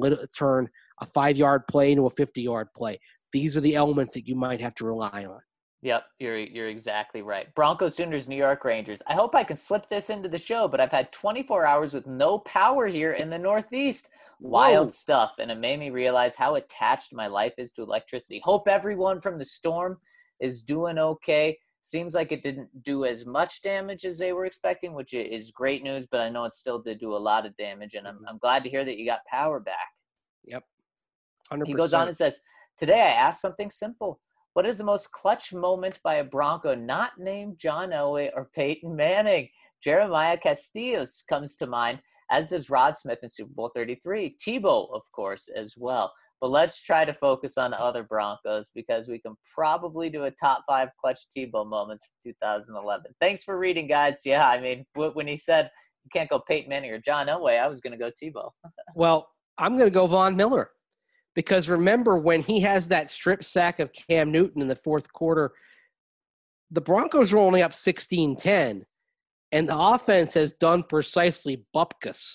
Speaker 3: 5-yard play into a 50-yard play. These are the elements that you might have to rely on.
Speaker 1: Yep, you're exactly right. Broncos, Sooners, New York Rangers. I hope I can slip this into the show, but I've had 24 hours with no power here in the Northeast. Wild stuff, and it made me realize how attached my life is to electricity. Hope everyone from the storm is doing okay. Seems like it didn't do as much damage as they were expecting, which is great news, but I know it still did do a lot of damage, and I'm glad to hear that you got power back.
Speaker 3: Yep, 100%.
Speaker 1: He goes on and says, today I asked something simple. What is the most clutch moment by a Bronco not named John Elway or Peyton Manning? Jeremiah Castillos comes to mind, as does Rod Smith in Super Bowl 33. Tebow, of course, as well. But let's try to focus on other Broncos, because we can probably do a top 5 clutch Tebow moments from 2011. Thanks for reading, guys. Yeah, I mean, when he said you can't go Peyton Manning or John Elway, I was going to go Tebow.
Speaker 3: Well, I'm going to go Von Miller, because remember when he has that strip sack of Cam Newton in the fourth quarter, the Broncos were only up 16-10, and the offense has done precisely bupkis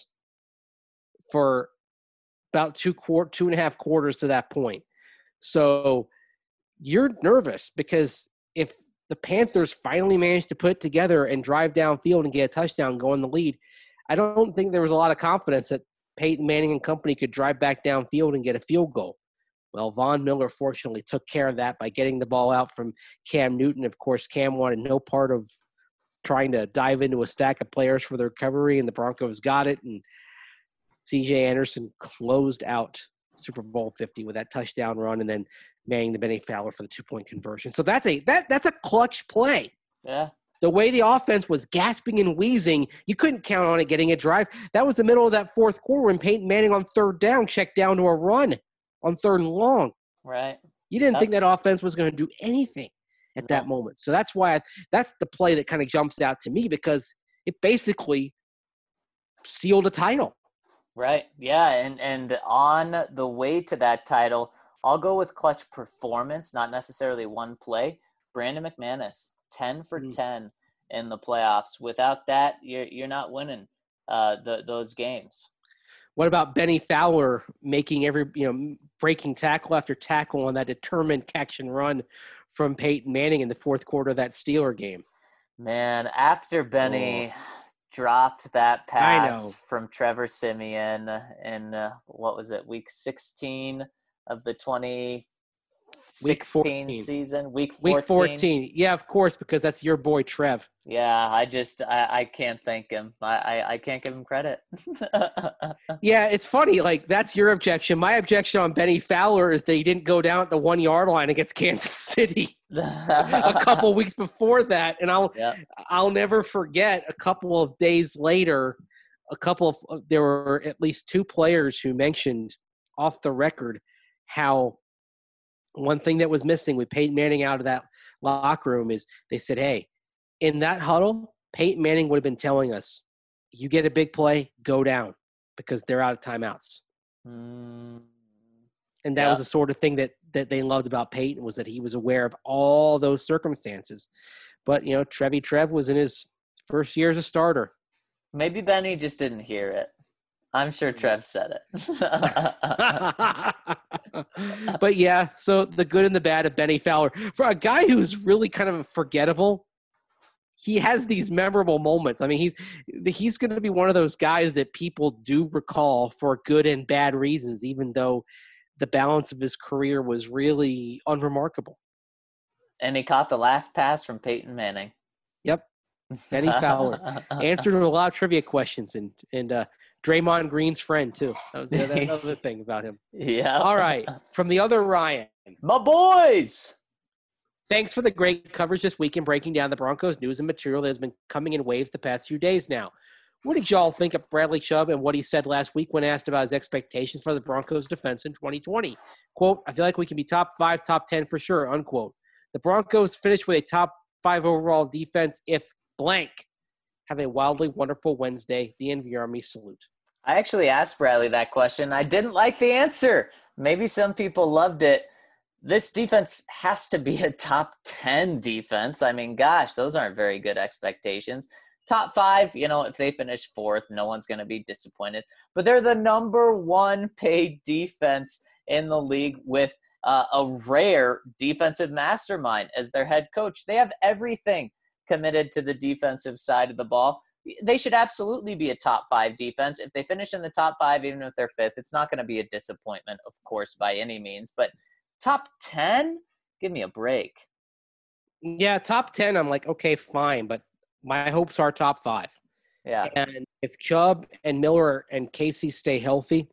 Speaker 3: for about 2.5 quarters to that point. So you're nervous, because if the Panthers finally managed to put it together and drive downfield and get a touchdown, go in the lead, I don't think there was a lot of confidence that Peyton Manning and company could drive back downfield and get a field goal. Well, Von Miller fortunately took care of that by getting the ball out from Cam Newton. Of course, Cam wanted no part of trying to dive into a stack of players for the recovery, and the Broncos got it, and C.J. Anderson closed out Super Bowl 50 with that touchdown run, and then Manning to Benny Fowler for the 2-point conversion. So that's a clutch play.
Speaker 1: Yeah.
Speaker 3: The way the offense was gasping and wheezing, you couldn't count on it getting a drive. That was the middle of that fourth quarter when Peyton Manning on third down checked down to a run on 3rd and long.
Speaker 1: Right.
Speaker 3: You didn't think that offense was going to do anything at that moment. So that's why that's the play that kind of jumps out to me, because it basically sealed a title.
Speaker 1: Right. Yeah. And on the way to that title, I'll go with clutch performance, not necessarily one play. Brandon McManus, 10 for 10 in the playoffs. Without that, you're not winning those games.
Speaker 3: What about Benny Fowler making breaking tackle after tackle on that determined catch and run from Peyton Manning in the fourth quarter of that Steeler game?
Speaker 1: Man, after Benny dropped that pass from Trevor Siemian in, what was it, week 16 of the 2016 season? Week 14.
Speaker 3: Yeah, of course, because that's your boy Trev.
Speaker 1: Yeah, I can't thank him. I can't give him credit.
Speaker 3: Yeah, it's funny. Like, that's your objection. My objection on Benny Fowler is that he didn't go down at the 1-yard line against Kansas City a couple weeks before that. And I'll never forget, a couple of days later, there were at least 2 players who mentioned off the record how one thing that was missing with Peyton Manning out of that locker room is they said, hey, in that huddle, Peyton Manning would have been telling us, you get a big play, go down, because they're out of timeouts.
Speaker 1: Mm,
Speaker 3: And that was the sort of thing that they loved about Peyton, was that he was aware of all those circumstances. But, Trev was in his first year as a starter.
Speaker 1: maybe Benny just didn't hear it. I'm sure Trev said it.
Speaker 3: But yeah, so the good and the bad of Benny Fowler. For a guy who's really kind of forgettable, he has these memorable moments. I mean, he's going to be one of those guys that people do recall for good and bad reasons, even though the balance of his career was really unremarkable.
Speaker 1: And he caught the last pass from Peyton Manning.
Speaker 3: Yep. Benny Fowler answered a lot of trivia questions, and Draymond Green's friend too. That was another thing about him.
Speaker 1: Yeah.
Speaker 3: All right. From the other Ryan.
Speaker 1: My boys.
Speaker 3: Thanks for the great coverage this week in breaking down the Broncos news and material that has been coming in waves the past few days now. What did y'all think of Bradley Chubb and what he said last week when asked about his expectations for the Broncos defense in 2020? Quote, I feel like we can be top 5, top 10 for sure, unquote. The Broncos finished with a top 5 overall defense if blank. Have a wildly wonderful Wednesday. The NV Army salute.
Speaker 1: I actually asked Bradley that question. I didn't like the answer. Maybe some people loved it. This defense has to be a top 10 defense. I mean, gosh, those aren't very good expectations. Top 5, if they finish 4th, no one's going to be disappointed. But they're the number 1 paid defense in the league with a rare defensive mastermind as their head coach. They have everything committed to the defensive side of the ball. They should absolutely be a top 5 defense. If they finish in the top 5, even if they're 5th, it's not going to be a disappointment, of course, by any means. But top 10? Give me a break.
Speaker 3: Yeah, top 10, I'm like, okay, fine. But my hopes are top 5.
Speaker 1: Yeah.
Speaker 3: And if Chubb and Miller and Casey stay healthy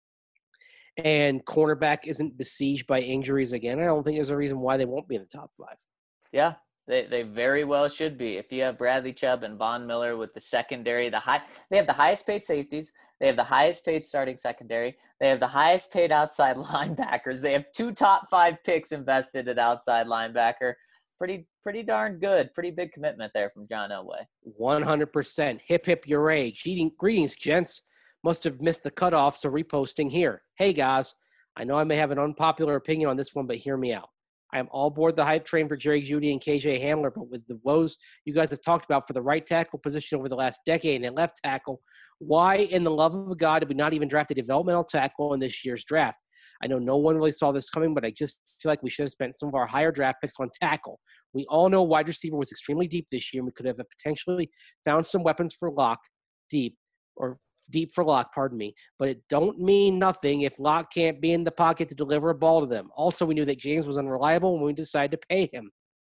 Speaker 3: and cornerback isn't besieged by injuries again, I don't think there's a reason why they won't be in the top 5.
Speaker 1: Yeah, they very well should be. If you have Bradley Chubb and Von Miller with the secondary, they have the highest paid safeties. They have the highest paid starting secondary. They have the highest paid outside linebackers. They have 2 top 5 picks invested at outside linebacker. Pretty darn good. Pretty big commitment there from John Elway.
Speaker 3: 100%. Hip, hip, hooray. Greetings, gents. Must have missed the cutoff, so reposting here. Hey, guys. I know I may have an unpopular opinion on this one, but hear me out. I am all aboard the hype train for Jerry Jeudy and KJ Hamler, but with the woes you guys have talked about for the right tackle position over the last decade and left tackle, why in the love of God did we not even draft a developmental tackle in this year's draft? I know no one really saw this coming, but I just feel like we should have spent some of our higher draft picks on tackle. We all know wide receiver was extremely deep this year, and we could have potentially found some weapons for deep for Locke, but it don't mean nothing if Locke can't be in the pocket to deliver a ball to them. Also, we knew that James was unreliable when we decided to pay him.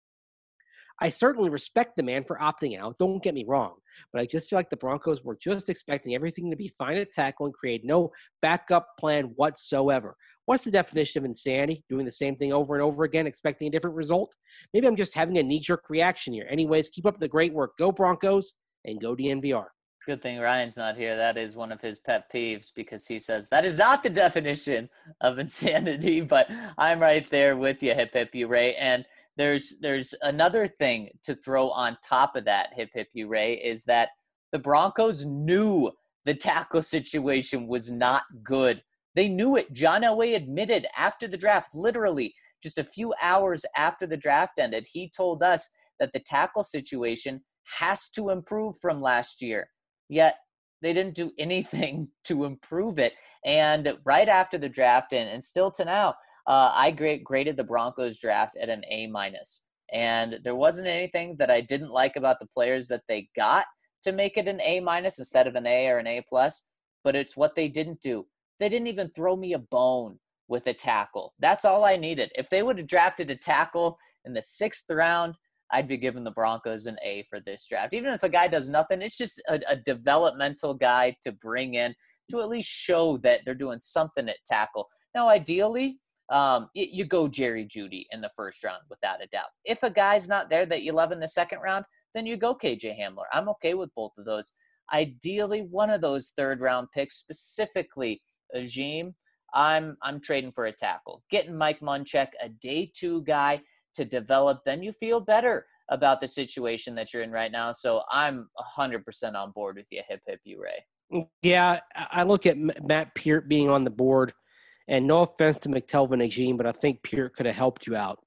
Speaker 3: I certainly respect the man for opting out, don't get me wrong, but I just feel like the Broncos were just expecting everything to be fine at tackle and create no backup plan whatsoever. What's the definition of insanity? Doing the same thing over and over again, expecting a different result? Maybe I'm just having a knee-jerk reaction here. Anyways, keep up the great work. Go Broncos and go DNVR.
Speaker 1: Good thing Ryan's not here. That is one of his pet peeves because he says that is not the definition of insanity, but I'm right there with you, hip hip hooray. And there's another thing to throw on top of that, hip hip hooray, is that the Broncos knew the tackle situation was not good. They knew it. John Elway admitted after the draft, literally just a few hours after the draft ended, he told us that the tackle situation has to improve from last year. Yet they didn't do anything to improve it. And right after the draft and still to now, I graded the Broncos draft at an A-. And there wasn't anything that I didn't like about the players that they got to make it an A- instead of an A or an A+, but it's what they didn't do. They didn't even throw me a bone with a tackle. That's all I needed. If they would have drafted a tackle in the 6th round, I'd be giving the Broncos an A for this draft. Even if a guy does nothing, it's just a developmental guy to bring in to at least show that they're doing something at tackle. Now, ideally, you go Jerry Jeudy in the 1st round without a doubt. If a guy's not there that you love in the 2nd round, then you go KJ Hamler. I'm okay with both of those. Ideally, one of those 3rd round picks, specifically Agim, I'm trading for a tackle. Getting Mike Munchak, a day 2 guy, to develop, then you feel better about the situation that you're in right now. So I'm 100% on board with you. Hip, hip, you, Ray.
Speaker 3: Yeah, I look at Matt Peart being on the board, and no offense to McTelvin Agene, but I think Peart could have helped you out.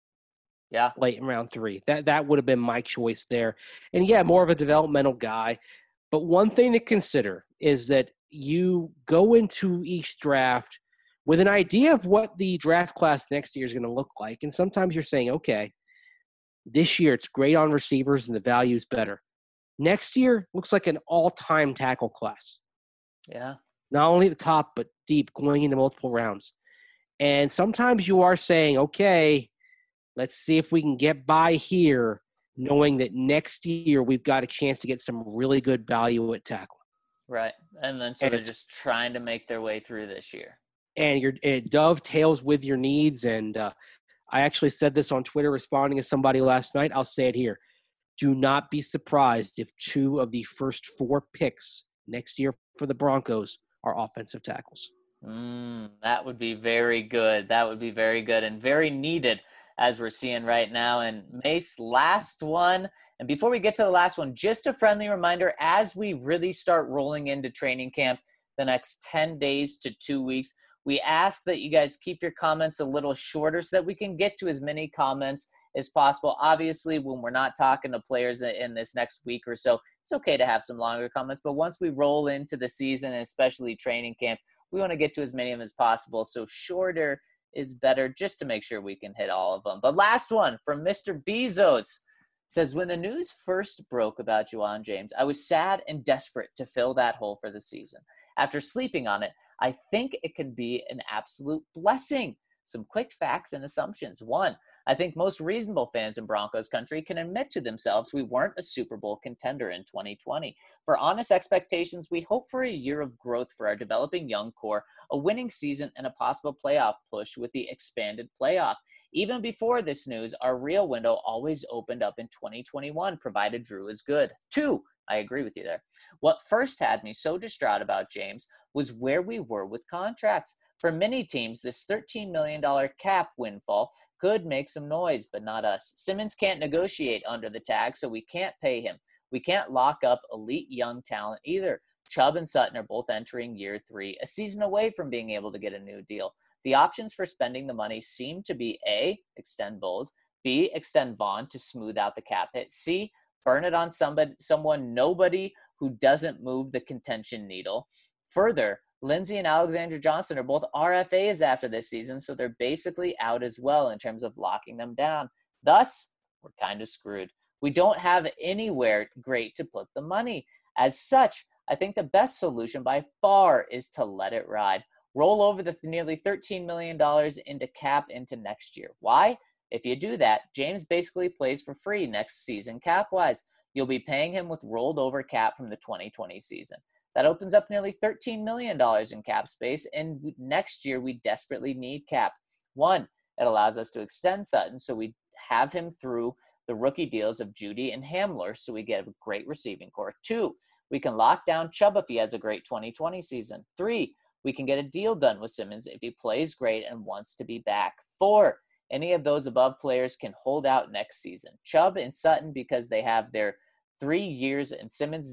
Speaker 1: Yeah,
Speaker 3: late in round 3. That would have been my choice there. And yeah, more of a developmental guy. But one thing to consider is that you go into each draft with an idea of what the draft class next year is going to look like. And sometimes you're saying, okay, this year it's great on receivers and the value is better. Next year looks like an all-time tackle class.
Speaker 1: Yeah.
Speaker 3: Not only at the top, but deep, going into multiple rounds. And sometimes you are saying, okay, let's see if we can get by here, knowing that next year we've got a chance to get some really good value at tackle.
Speaker 1: Right. And then so they're just trying to make their way through this year.
Speaker 3: And it dovetails with your needs. And I actually said this on Twitter responding to somebody last night. I'll say it here. Do not be surprised if 2 of the first 4 picks next year for the Broncos are offensive tackles.
Speaker 1: That would be very good. That would be very good and very needed, as we're seeing right now. And Mace, last one. And before we get to the last one, just a friendly reminder, as we really start rolling into training camp the next 10 days to 2 weeks, we ask that you guys keep your comments a little shorter so that we can get to as many comments as possible. Obviously, when we're not talking to players in this next week or so, it's okay to have some longer comments. But once we roll into the season, and especially training camp, we want to get to as many of them as possible. So shorter is better, just to make sure we can hit all of them. But last one from Mr. Bezos says, when the news first broke about Ja'Wuan James, I was sad and desperate to fill that hole for the season. After sleeping on it, I think it could be an absolute blessing. Some quick facts and assumptions. 1, I think most reasonable fans in Broncos country can admit to themselves we weren't a Super Bowl contender in 2020. For honest expectations, we hope for a year of growth for our developing young core, a winning season, and a possible playoff push with the expanded playoff. Even before this news, our real window always opened up in 2021, provided Drew is good. 2, I agree with you there. What first had me so distraught about James was where we were with contracts. For many teams, this $13 million cap windfall could make some noise, but not us. Simmons can't negotiate under the tag, so we can't pay him. We can't lock up elite young talent either. Chubb and Sutton are both entering year 3, a season away from being able to get a new deal. The options for spending the money seem to be A, extend Bowles, B, extend Vaughn to smooth out the cap hit, C, burn it on nobody who doesn't move the contention needle. Further, Lindsey and Alexander Johnson are both RFAs after this season, so they're basically out as well in terms of locking them down. Thus, we're kind of screwed. We don't have anywhere great to put the money. As such, I think the best solution by far is to let it ride. Roll over the nearly $13 million into cap into next year. Why? If you do that, James basically plays for free next season cap-wise. You'll be paying him with rolled over cap from the 2020 season. That opens up nearly $13 million in cap space, and next year we desperately need cap. 1, it allows us to extend Sutton, so we have him through the rookie deals of Judy and Hamler, so we get a great receiving core. 2, we can lock down Chubb if he has a great 2020 season. 3, we can get a deal done with Simmons if he plays great and wants to be back. 4, any of those above players can hold out next season. Chubb and Sutton because they have their 3 years, and Simmons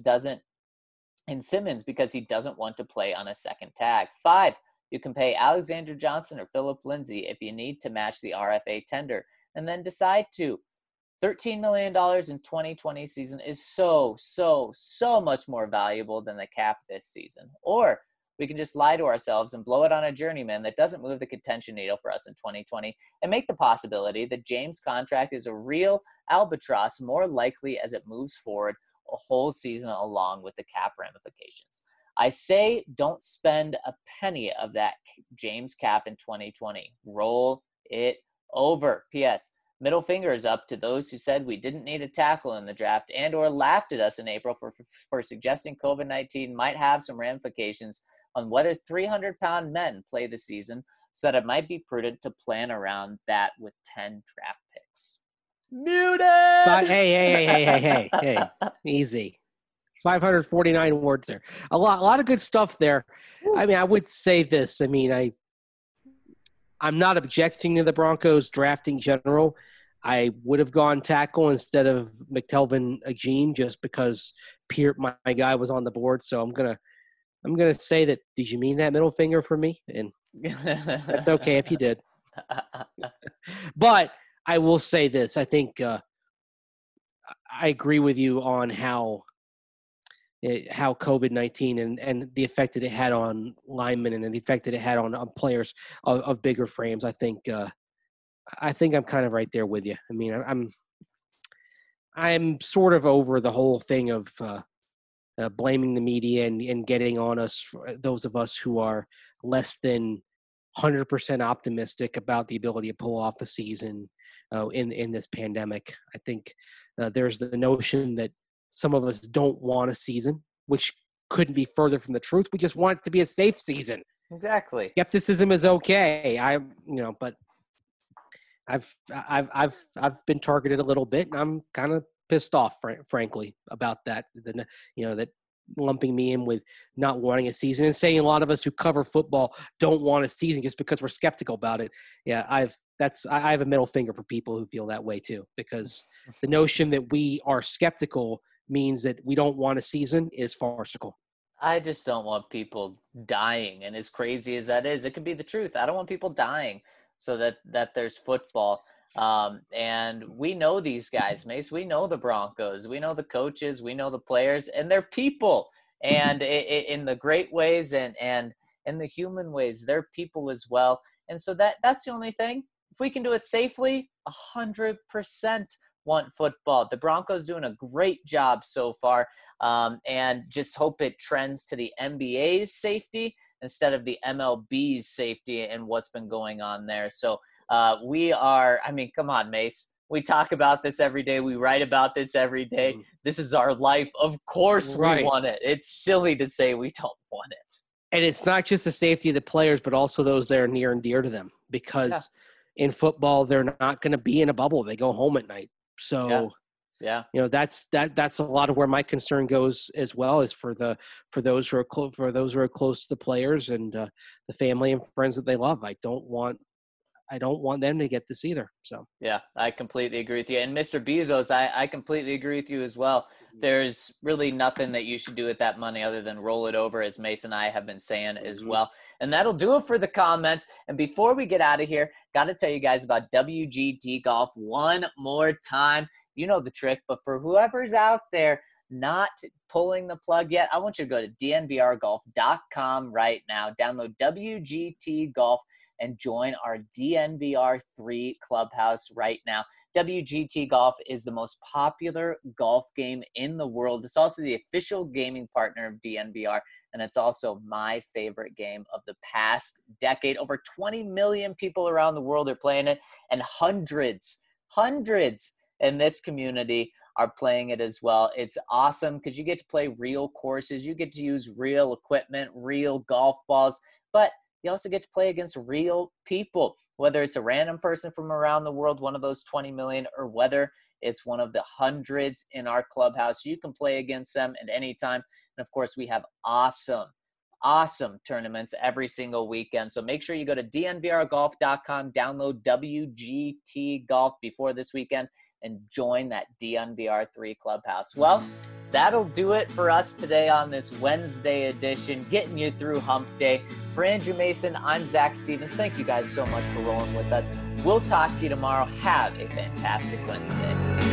Speaker 1: because he doesn't want to play on a second tag. 5, you can pay Alexander Johnson or Philip Lindsay if you need to match the RFA tender, and then decide to. $13 million in 2020 season is so much more valuable than the cap this season. Or we can just lie to ourselves and blow it on a journeyman that doesn't move the contention needle for us in 2020 and make the possibility that James' contract is a real albatross more likely as it moves forward a whole season along with the cap ramifications. I say don't spend a penny of that James cap in 2020. Roll it over. P.S. Middle fingers up to those who said we didn't need a tackle in the draft and or laughed at us in April for suggesting COVID-19 might have some ramifications on whether 300-pound men play the season, so that it might be prudent to plan around that with 10 draft picks. Muted!
Speaker 3: But hey, easy. 549 words there. A lot of good stuff there. Woo. I mean, I would say this. I mean, I'm not objecting to the Broncos drafting general. I would have gone tackle instead of McTelvin Agim just because my guy was on the board. So I'm gonna say that. Did you mean that middle finger for me? And that's okay if you did. But I will say this: I think I agree with you on how COVID-19 and the effect that it had on linemen and the effect that it had on players of bigger frames. I think I'm kind of right there with you. I mean, I'm sort of over the whole thing of blaming the media and getting on us, those of us who are less than 100% optimistic about the ability to pull off a season in this pandemic. I think there's the notion that some of us don't want a season, which couldn't be further from the truth. We just want it to be a safe season.
Speaker 1: Exactly.
Speaker 3: Skepticism is okay. But I've been targeted a little bit, and I'm kind of pissed off, frankly, about that. That lumping me in with not wanting a season and saying a lot of us who cover football don't want a season just because we're skeptical about it. Yeah, I have a middle finger for people who feel that way too, because the notion that we are skeptical means that we don't want a season is farcical.
Speaker 1: I just don't want people dying. And as crazy as that is, it could be the truth. I don't want people dying so that there's football. And we know these guys, Mace. We know the Broncos. We know the coaches. We know the players. And they're people. And in the great ways and in the human ways, they're people as well. And so that's the only thing. If we can do it safely, 100% want football. The Broncos doing a great job so far, and just hope it trends to the NBA's safety instead of the MLB's safety and what's been going on there. So come on, Mace. We talk about this every day. We write about this every day. This is our life. Of course we want it. It's silly to say we don't want it.
Speaker 3: And it's not just the safety of the players, but also those that are near and dear to them, because in football, they're not going to be in a bubble. They go home at night. So, that's a lot of where my concern goes as well, is for those who are close to the players and the family and friends that they love. I don't want them to get this either. So
Speaker 1: yeah, I completely agree with you. And Mr. Bezos, I completely agree with you as well. There's really nothing that you should do with that money other than roll it over, as Mason and I have been saying as well. And that'll do it for the comments. And before we get out of here, got to tell you guys about WGT Golf one more time. You know the trick, but for whoever's out there not pulling the plug yet, I want you to go to dnvrgolf.com right now. Download WGT Golf and join our DNVR3 clubhouse right now. WGT Golf is the most popular golf game in the world. It's also the official gaming partner of DNVR, and it's also my favorite game of the past decade. Over 20 million people around the world are playing it, and hundreds in this community are playing it as well. It's awesome because you get to play real courses. You get to use real equipment, real golf balls, but you also get to play against real people, whether it's a random person from around the world, one of those 20 million, or whether it's one of the hundreds in our clubhouse. You can play against them at any time. And of course, we have awesome tournaments every single weekend. So make sure you go to dnvrgolf.com, download WGT Golf before this weekend, and join that DNVR3 clubhouse. Well, that'll do it for us today on this Wednesday edition, getting you through hump day. For Andrew Mason, I'm Zach Stevens. Thank you guys so much for rolling with us. We'll talk to you tomorrow. Have a fantastic Wednesday.